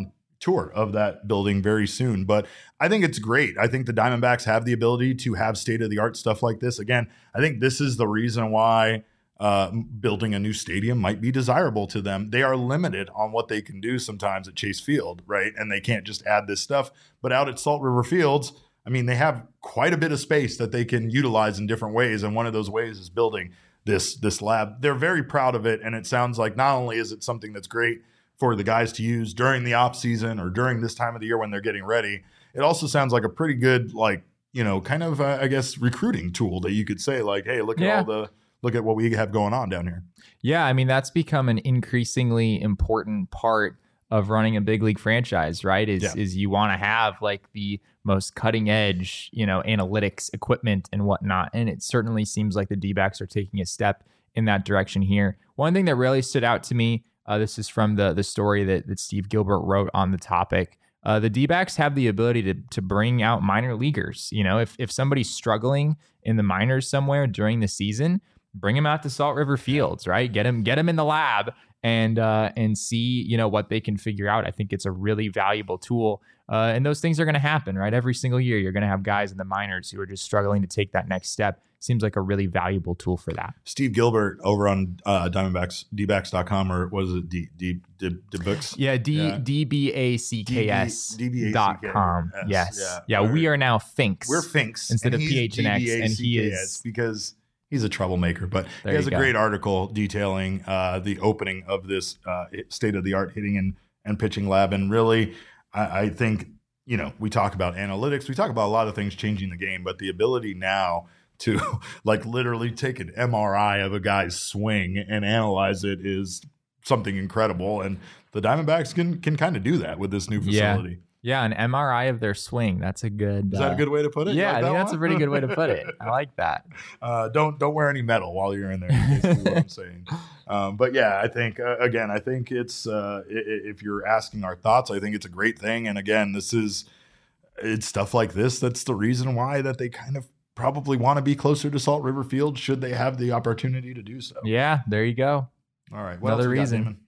tour of that building very soon. But I think it's great. I think the Diamondbacks have the ability to have state-of-the-art stuff like this. Again, I think this is the reason why uh, building a new stadium might be desirable to them. They are limited on what they can do sometimes at Chase Field, right? And they can't just add this stuff. But out at Salt River Fields, I mean, they have quite a bit of space that they can utilize in different ways. And one of those ways is building this, this lab. They're very proud of it. And it sounds like not only is it something that's great for the guys to use during the off season or during this time of the year when they're getting ready, it also sounds like a pretty good, like, you know, kind of, uh, I guess, recruiting tool that you could say, like, hey, look at Yeah. all the, look at what we have going on down here. Yeah, I mean, that's become an increasingly important part of running a big league franchise, right? Is Yeah. is you want to have like the most cutting edge, you know, analytics equipment and whatnot. And it certainly seems like the D-backs are taking a step in that direction here. One thing that really stood out to me, uh, this is from the the story that, that Steve Gilbert wrote on the topic. Uh, the D-backs have the ability to to bring out minor leaguers. You know, if if somebody's struggling in the minors somewhere during the season, bring them out to Salt River Fields, right? Get them get them in the lab and uh, and see, you know, what they can figure out. I think it's a really valuable tool. Uh, and those things are going to happen, right? Every single year, you're going to have guys in the minors who are just struggling to take that next step. Seems like a really valuable tool for that. Steve Gilbert over on uh, Diamondbacks, D backs dot com, or what is it, D, D, D, D books? Yeah, D, Yeah. D B A C K S D B A C K S. dot com. Yes. Yeah. Yeah, we are now Finks. We're Finks. Instead and of he's P H and X, and he D B A C K S is- because he's a troublemaker. But There he has you a go. great article detailing uh, the opening of this uh, state-of-the-art hitting and, and pitching lab. And really, I, I think, you know, we talk about analytics. We talk about a lot of things changing the game, but the ability now to like literally take an M R I of a guy's swing and analyze it is something incredible. And the Diamondbacks can can kind of do that with this new Yeah. facility. Yeah, an M R I of their swing. That's a good. Is that a uh, good way to put it? You Yeah, like I that think that's one? a pretty good way to put it. I like that. Uh, don't don't wear any metal while you're in there. Is basically what I'm saying. Um, but yeah, I think uh, again, I think it's uh, i- i- if you're asking our thoughts, I think it's a great thing. And again, this is it's stuff like this that's the reason why that they kind of probably want to be closer to Salt River Field should they have the opportunity to do so. Yeah, there you go. All right, what Another else we got, reason. Damon?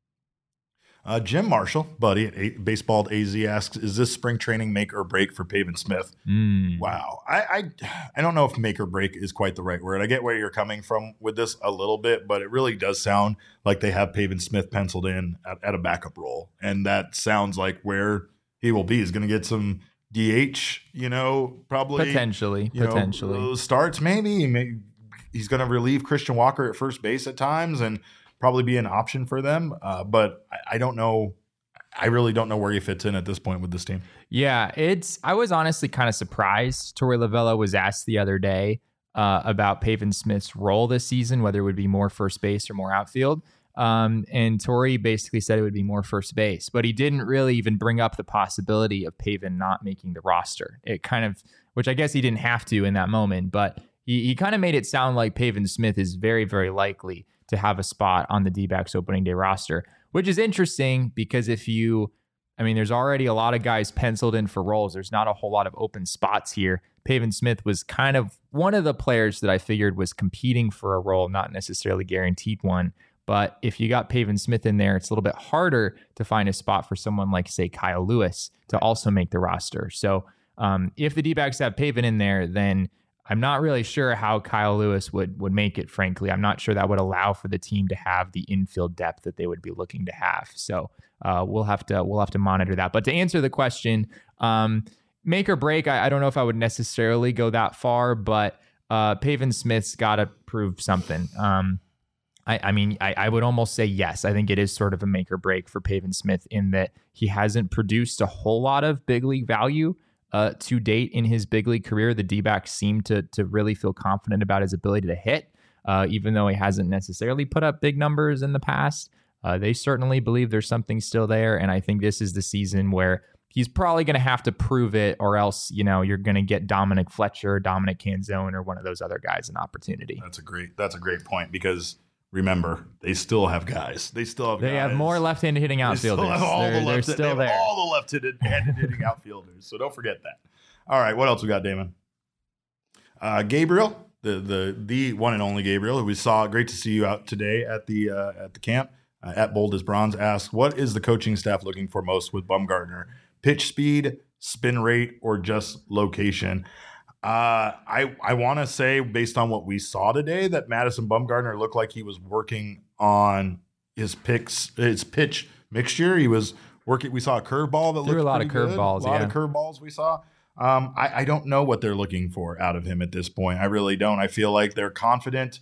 Uh, Jim Marshall, buddy at A- Baseball A Z, asks, "Is this spring training make or break for Pavin Smith?" Mm. Wow, I, I I don't know if make or break is quite the right word. I get where you're coming from with this a little bit, but it really does sound like they have Pavin Smith penciled in at, at a backup role, and that sounds like where he will be. He's going to get some D H, you know, probably Potentially, you know, potentially. uh, starts maybe. He may, he's going to relieve Christian Walker at first base at times, and probably be an option for them. Uh, but I, I don't know. I really don't know where he fits in at this point with this team. Yeah, it's. I was honestly kind of surprised. Torey Lovullo was asked the other day uh, about Pavin Smith's role this season, whether it would be more first base or more outfield. Um, and Torey basically said it would be more first base, but he didn't really even bring up the possibility of Pavin not making the roster. It kind of, which I guess he didn't have to in that moment, but he, he kind of made it sound like Pavin Smith is very, very likely to have a spot on the D-backs opening day roster, which is interesting because if you, I mean, there's already a lot of guys penciled in for roles. There's not a whole lot of open spots here. Pavin Smith was kind of one of the players that I figured was competing for a role, not necessarily guaranteed one. But if you got Pavin Smith in there, it's a little bit harder to find a spot for someone like, say, Kyle Lewis to also make the roster. So um, if the D-backs have Pavin in there, then I'm not really sure how Kyle Lewis would would make it, frankly. I'm not sure that would allow for the team to have the infield depth that they would be looking to have. So uh, we'll have to we'll have to monitor that. But to answer the question, um, make or break, I, I don't know if I would necessarily go that far, but uh, Pavin Smith's got to prove something. Um, I, I mean, I, I would almost say yes. I think it is sort of a make or break for Pavin Smith in that he hasn't produced a whole lot of big league value uh, to date in his big league career. The D-backs seem to to really feel confident about his ability to hit, uh, even though he hasn't necessarily put up big numbers in the past. Uh, they certainly believe there's something still there, and I think this is the season where he's probably going to have to prove it, or else, you know, you're going to get Dominic Fletcher, Dominic Canzone, or one of those other guys an opportunity. That's a great. That's a great point because remember they still have guys. They still have. They guys. have more left-handed hitting They outfielders. still have all they're, the they're left. They still have there. all the left-handed hitting outfielders. So don't forget that. All right, what else we got, Damon? Uh, Gabriel, the the the one and only Gabriel, who we saw. Great to see you out today at the uh, at the camp. uh, at Bold as Bronze asks, what is the coaching staff looking for most with Bumgarner? Pitch speed, spin rate, or just location? Uh, I I want to say, based on what we saw today, that Madison Bumgarner looked like he was working on his picks, his pitch mixture. He was working. We saw a curveball that Threw looked a lot of pretty good. curveballs. A lot yeah. of curveballs we saw. Um, I, I don't know what they're looking for out of him at this point. I really don't. I feel like they're confident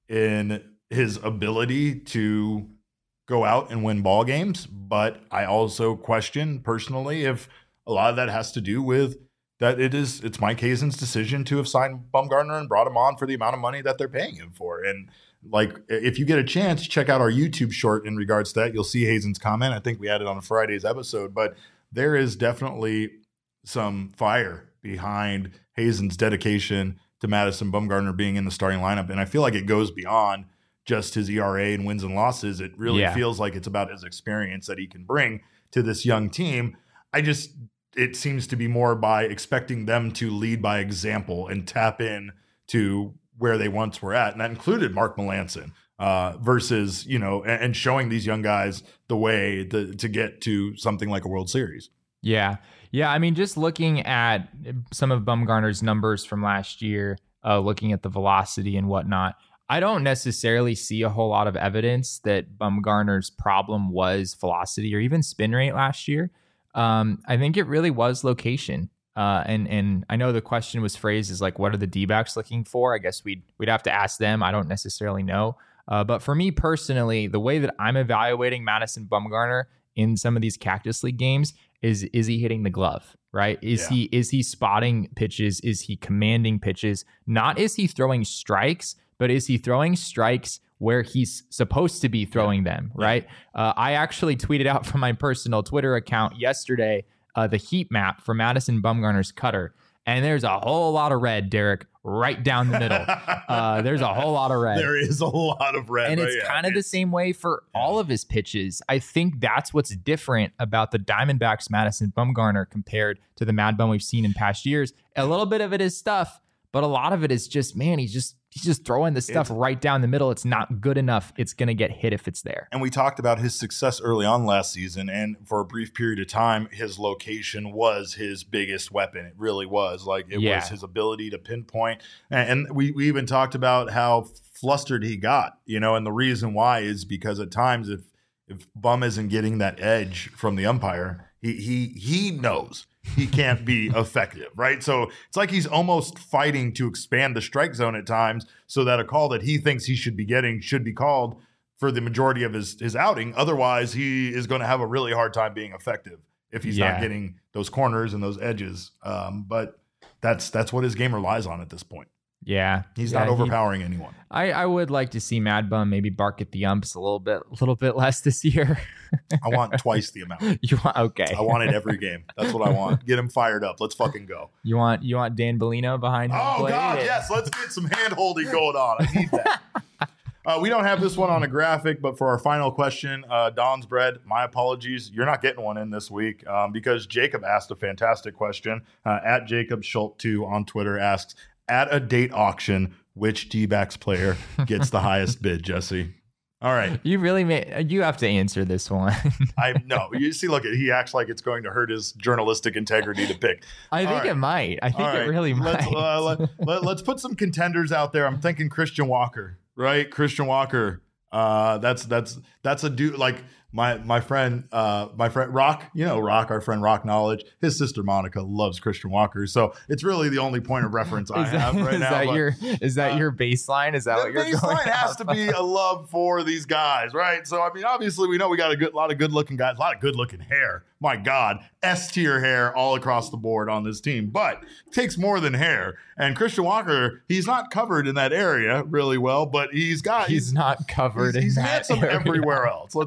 in his ability to go out and win ball games, but I also question personally if a lot of that has to do with that it is it's Mike Hazen's decision to have signed Bumgarner and brought him on for the amount of money that they're paying him for. And like, if you get a chance, check out our YouTube short in regards to that. You'll see Hazen's comment. I think we had it on Friday's episode, but there is definitely some fire behind Hazen's dedication to Madison Bumgarner being in the starting lineup. And I feel like it goes beyond just his E R A and wins and losses. It really Yeah. feels like it's about his experience that he can bring to this young team. I just, it seems to be more by expecting them to lead by example and tap in to where they once were at. And that included Mark Melancon uh, versus, you know, and, and showing these young guys the way to, to get to something like a World Series. Yeah. Yeah. I mean, just looking at some of Bumgarner's numbers from last year, uh, looking at the velocity and whatnot, I don't necessarily see a whole lot of evidence that Bumgarner's problem was velocity or even spin rate last year. Um, I think it really was location. Uh, and and I know the question was phrased as like, what are the D-backs looking for? I guess we'd we'd have to ask them. I don't necessarily know. Uh, but for me personally, the way that I'm evaluating Madison Bumgarner in some of these Cactus League games is is he hitting the glove, right? Is Yeah. he is he spotting pitches? Is he commanding pitches? Not is he throwing strikes, but is he throwing strikes where he's supposed to be throwing yeah. them, right? Yeah. Uh, I actually tweeted out from my personal Twitter account yesterday uh, the heat map for Madison Bumgarner's cutter. And there's a whole lot of red, Derek, right down the middle. Uh, there's a whole lot of red. There is a lot of red. And right? it's yeah. kind of the same way for yeah. all of his pitches. I think that's what's different about the Diamondbacks' Madison Bumgarner compared to the Mad Bum we've seen in past years. A little bit of it is stuff, but a lot of it is just, man, he's just he's just throwing the stuff it's, right down the middle. It's not good enough. It's going to get hit if it's there. And we talked about his success early on last season, and for a brief period of time, his location was his biggest weapon. It really was. Like, it yeah. was his ability to pinpoint. And, and we, we even talked about how flustered he got, you know, and the reason why is because at times if if Bum isn't getting that edge from the umpire, he he he knows he can't be effective, right? So it's like he's almost fighting to expand the strike zone at times so that a call that he thinks he should be getting should be called for the majority of his, his outing. Otherwise, he is going to have a really hard time being effective if he's yeah. not getting those corners and those edges. Um, but that's that's what his game relies on at this point. Yeah. He's yeah, not overpowering he, anyone. I, I would like to see Mad Bum maybe bark at the umps a little bit, a little bit less this year. I want twice the amount. You want okay. I want it every game. That's what I want. Get him fired up. Let's fucking go. You want you want Dan Bellino behind home Oh plate? God, and- yes. Let's get some hand holding going on. I need that. Uh, we don't have this one on a graphic, but for our final question, uh, Don's Bread, my apologies. You're not getting one in this week um, because Jacob asked a fantastic question. Uh, at Jacob Schultz two on Twitter asks, at a date auction, which D-backs player gets the highest bid, Jesse? All right. You really made, you have to answer this one. I no. You see, look, he acts like it's going to hurt his journalistic integrity to pick. I think right. it might. I think All it right. really let's, might. Uh, let, let, let's put some contenders out there. I'm thinking Christian Walker, right? Christian Walker. Uh, that's that's that's a dude like my my friend uh my friend Rock, you know Rock, our friend Rock Knowledge. His sister Monica loves Christian Walker, so it's really the only point of reference I is that, have right is now. That but, your, is that uh, your baseline? Is that the what you're going? baseline has off to be a love for these guys, right? So I mean, obviously we know we got a good lot of good looking guys, a lot of good looking hair. My God, S tier hair all across the board on this team, but it takes more than hair. And Christian Walker, he's not covered in that area really well, but he's got He's, he's not covered he's, in he's that handsome area. everywhere else. Let's be honest.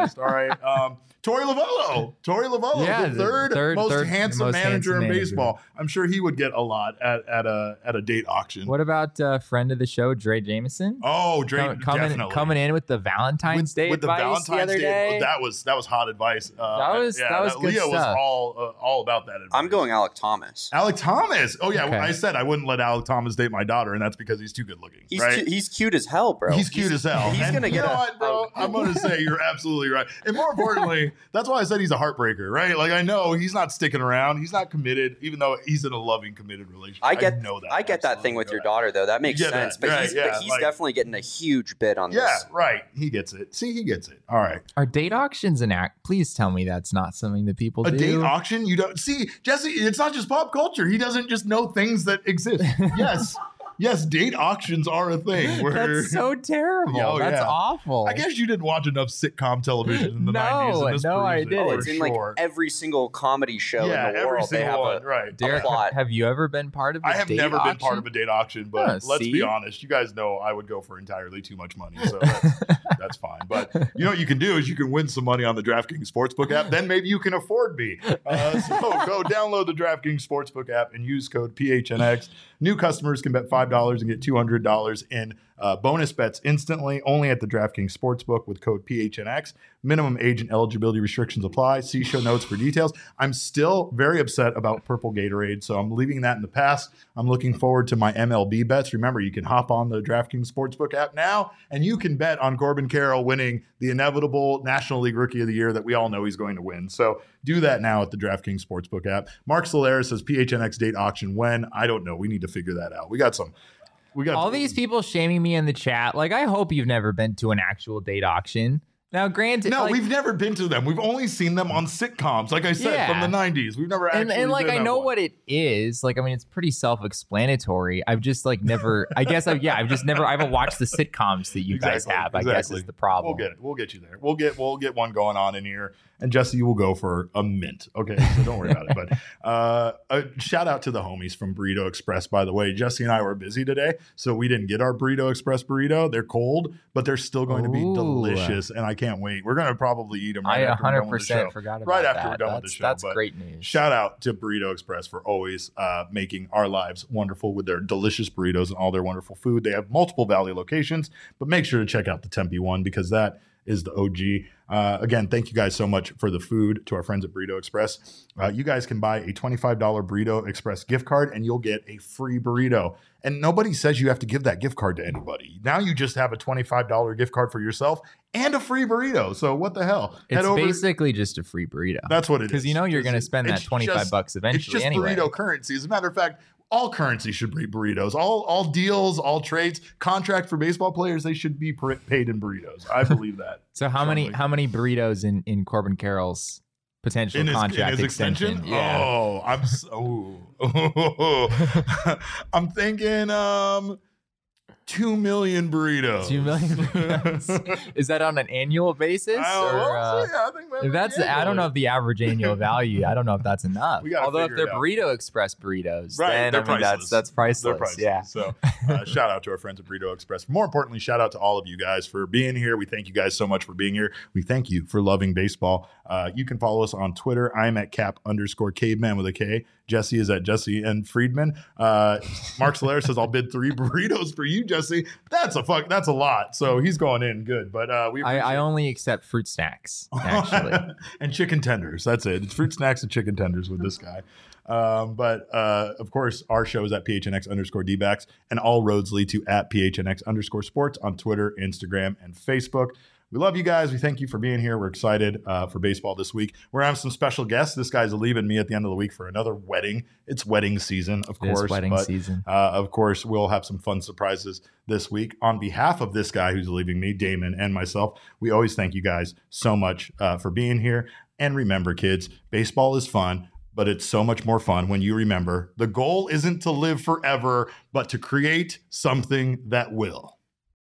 list. All right. Um, Torey Lovullo. Torey Lovullo, Yeah, the the third, third- most third handsome most manager handsome in manager. baseball. I'm sure he would get a lot at, at a at a date auction. What about uh, friend of the show, Dre Jameson? Oh, Dre, Com- coming, definitely. coming in with the Valentine's Day with the advice Valentine's the other Day. day. That was that was hot advice. Uh, That was- yeah, that was good Leah was stuff. all uh, all about that advice. I'm going Alec Thomas. Alec Thomas. Oh yeah, Okay. I said I wouldn't let Alec Thomas date my daughter, and that's because he's too good looking. He's right? cu- he's cute as hell, bro. He's cute as hell. He's And gonna you get know a, what, bro? I'm gonna say you're absolutely right. And more importantly, that's why I said he's a heartbreaker, right? Like I know he's not sticking around. He's not committed, even though he's in a loving, committed relationship. I get know that. I get that Absolutely thing with know your that. daughter though. That makes You get sense. that, But right, he's yeah, but he's like- definitely getting a huge bid on Yeah, this. right. He gets it. See, he gets it. All right. Are date auctions an act? Please tell me that's not something that people A do. date auction? You don't see, Jesse, it's not just pop culture. He doesn't just know things that exist. Yes. Yes, date auctions are a thing. Where That's so terrible. Oh, That's yeah. awful. I guess you didn't watch enough sitcom television in the No, nineties. And this no, I proves it, didn't. for It's in like sure. every single comedy show yeah, in the every world. They single have one, a right. Derek, plot. have you ever been part of a I have date never auction? been part of a date auction, but Huh, let's see? be honest. You guys know I would go for entirely too much money, so that's, that's fine. But you know what you can do is you can win some money on the DraftKings Sportsbook app. Then maybe you can afford me. Uh, so go download the DraftKings Sportsbook app and use code P H N X. New customers can bet five dollars and get two hundred dollars in uh, bonus bets instantly, only at the DraftKings Sportsbook with code P H N X. Minimum age and eligibility restrictions apply. See show notes for details. I'm still very upset about Purple Gatorade, so I'm leaving that in the past. I'm looking forward to my M L B bets. Remember, you can hop on the DraftKings Sportsbook app now, and you can bet on Corbin Carroll winning the inevitable National League Rookie of the Year that we all know he's going to win. So do that now at the DraftKings Sportsbook app. Mark Solera says P H N X date auction when? I don't know. We need to figure that out. We got some. We got All these people shaming me in the chat. Like, I hope you've never been to an actual date auction. Now, granted, No, like, we've never been to them. We've only seen them on sitcoms, like I said, Yeah. from the nineties. We've never actually and, and like been I at know one. what it is. Like, I mean, it's pretty self-explanatory. I've just like never. I guess I've yeah. I've just never. I haven't watched the sitcoms that you guys Exactly, have. I guess exactly. is the problem. We'll get it. We'll get you there. We'll get we'll get one going on in here. And Jesse, you will go for a mint. Okay, so don't worry about it. But uh, a shout out to the homies from Burrito Express, by the way. Jesse and I were busy today, so we didn't get our Burrito Express burrito. They're cold, but they're still going to be Ooh. delicious, and I can't wait. We're going to probably eat them right I after we're done with the one hundred percent show. forgot about Right that. after we're done with that's, the show. That's but great news. Shout out to Burrito Express for always uh, making our lives wonderful with their delicious burritos and all their wonderful food. They have multiple Valley locations, but make sure to check out the Tempe one because that is the O G. Uh, again, thank you guys so much for the food to our friends at Burrito Express. Uh, you guys can buy a twenty-five dollars Burrito Express gift card and you'll get a free burrito. And nobody says you have to give that gift card to anybody. Now you just have a twenty-five dollars gift card for yourself and a free burrito. So what the hell? It's basically just a free burrito. That's what it is. Because you know you're Just- going to spend that it's twenty-five just- bucks eventually It's just anyway. burrito currency. As a matter of fact, all currency should be burritos. All all deals, all trades, contract for baseball players, they should be pr- paid in burritos. I believe that. So how many Strongly. how many burritos in, in Corbin Carroll's potential In his, in contract his extension? extension? Yeah. Oh, I'm so I'm thinking um two million burritos. Two million burritos. Is that on an annual basis? I don't or, know. uh, Yeah, I think maybe if that's I don't know if the average annual value. I don't know if that's enough. We gotta Although if figure they're it out. Burrito Express burritos, Right, then they're I mean priceless. that's that's priceless. They're priceless. Yeah. So uh, shout out to our friends at Burrito Express. More importantly, shout out to all of you guys for being here. We thank you guys so much for being here. We thank you for loving baseball. Uh, you can follow us on Twitter. I'm at cap underscore caveman with a K. Jesse is at Jesse and Friedman. Uh, Mark Solera says, I'll bid three burritos for you, Jesse. That's a fuck. That's a lot. So he's going in good. But uh, we I, I appreciate- only accept fruit snacks, actually. and chicken tenders. That's it. It's fruit snacks and chicken tenders with this guy. Um, but uh, of course, our show is at P H N X underscore D-backs, and all roads lead to at P H N X underscore sports on Twitter, Instagram, and Facebook. We love you guys. We thank you for being here. We're excited uh, for baseball this week. We're having some special guests. This guy's leaving me at the end of the week for another wedding. It's wedding season, of It is course. wedding but, season. Uh, of course, we'll have some fun surprises this week. On behalf of this guy who's leaving me, Damon, and myself, we always thank you guys so much uh, for being here. And remember, kids, baseball is fun, but it's so much more fun when you remember the goal isn't to live forever, but to create something that will.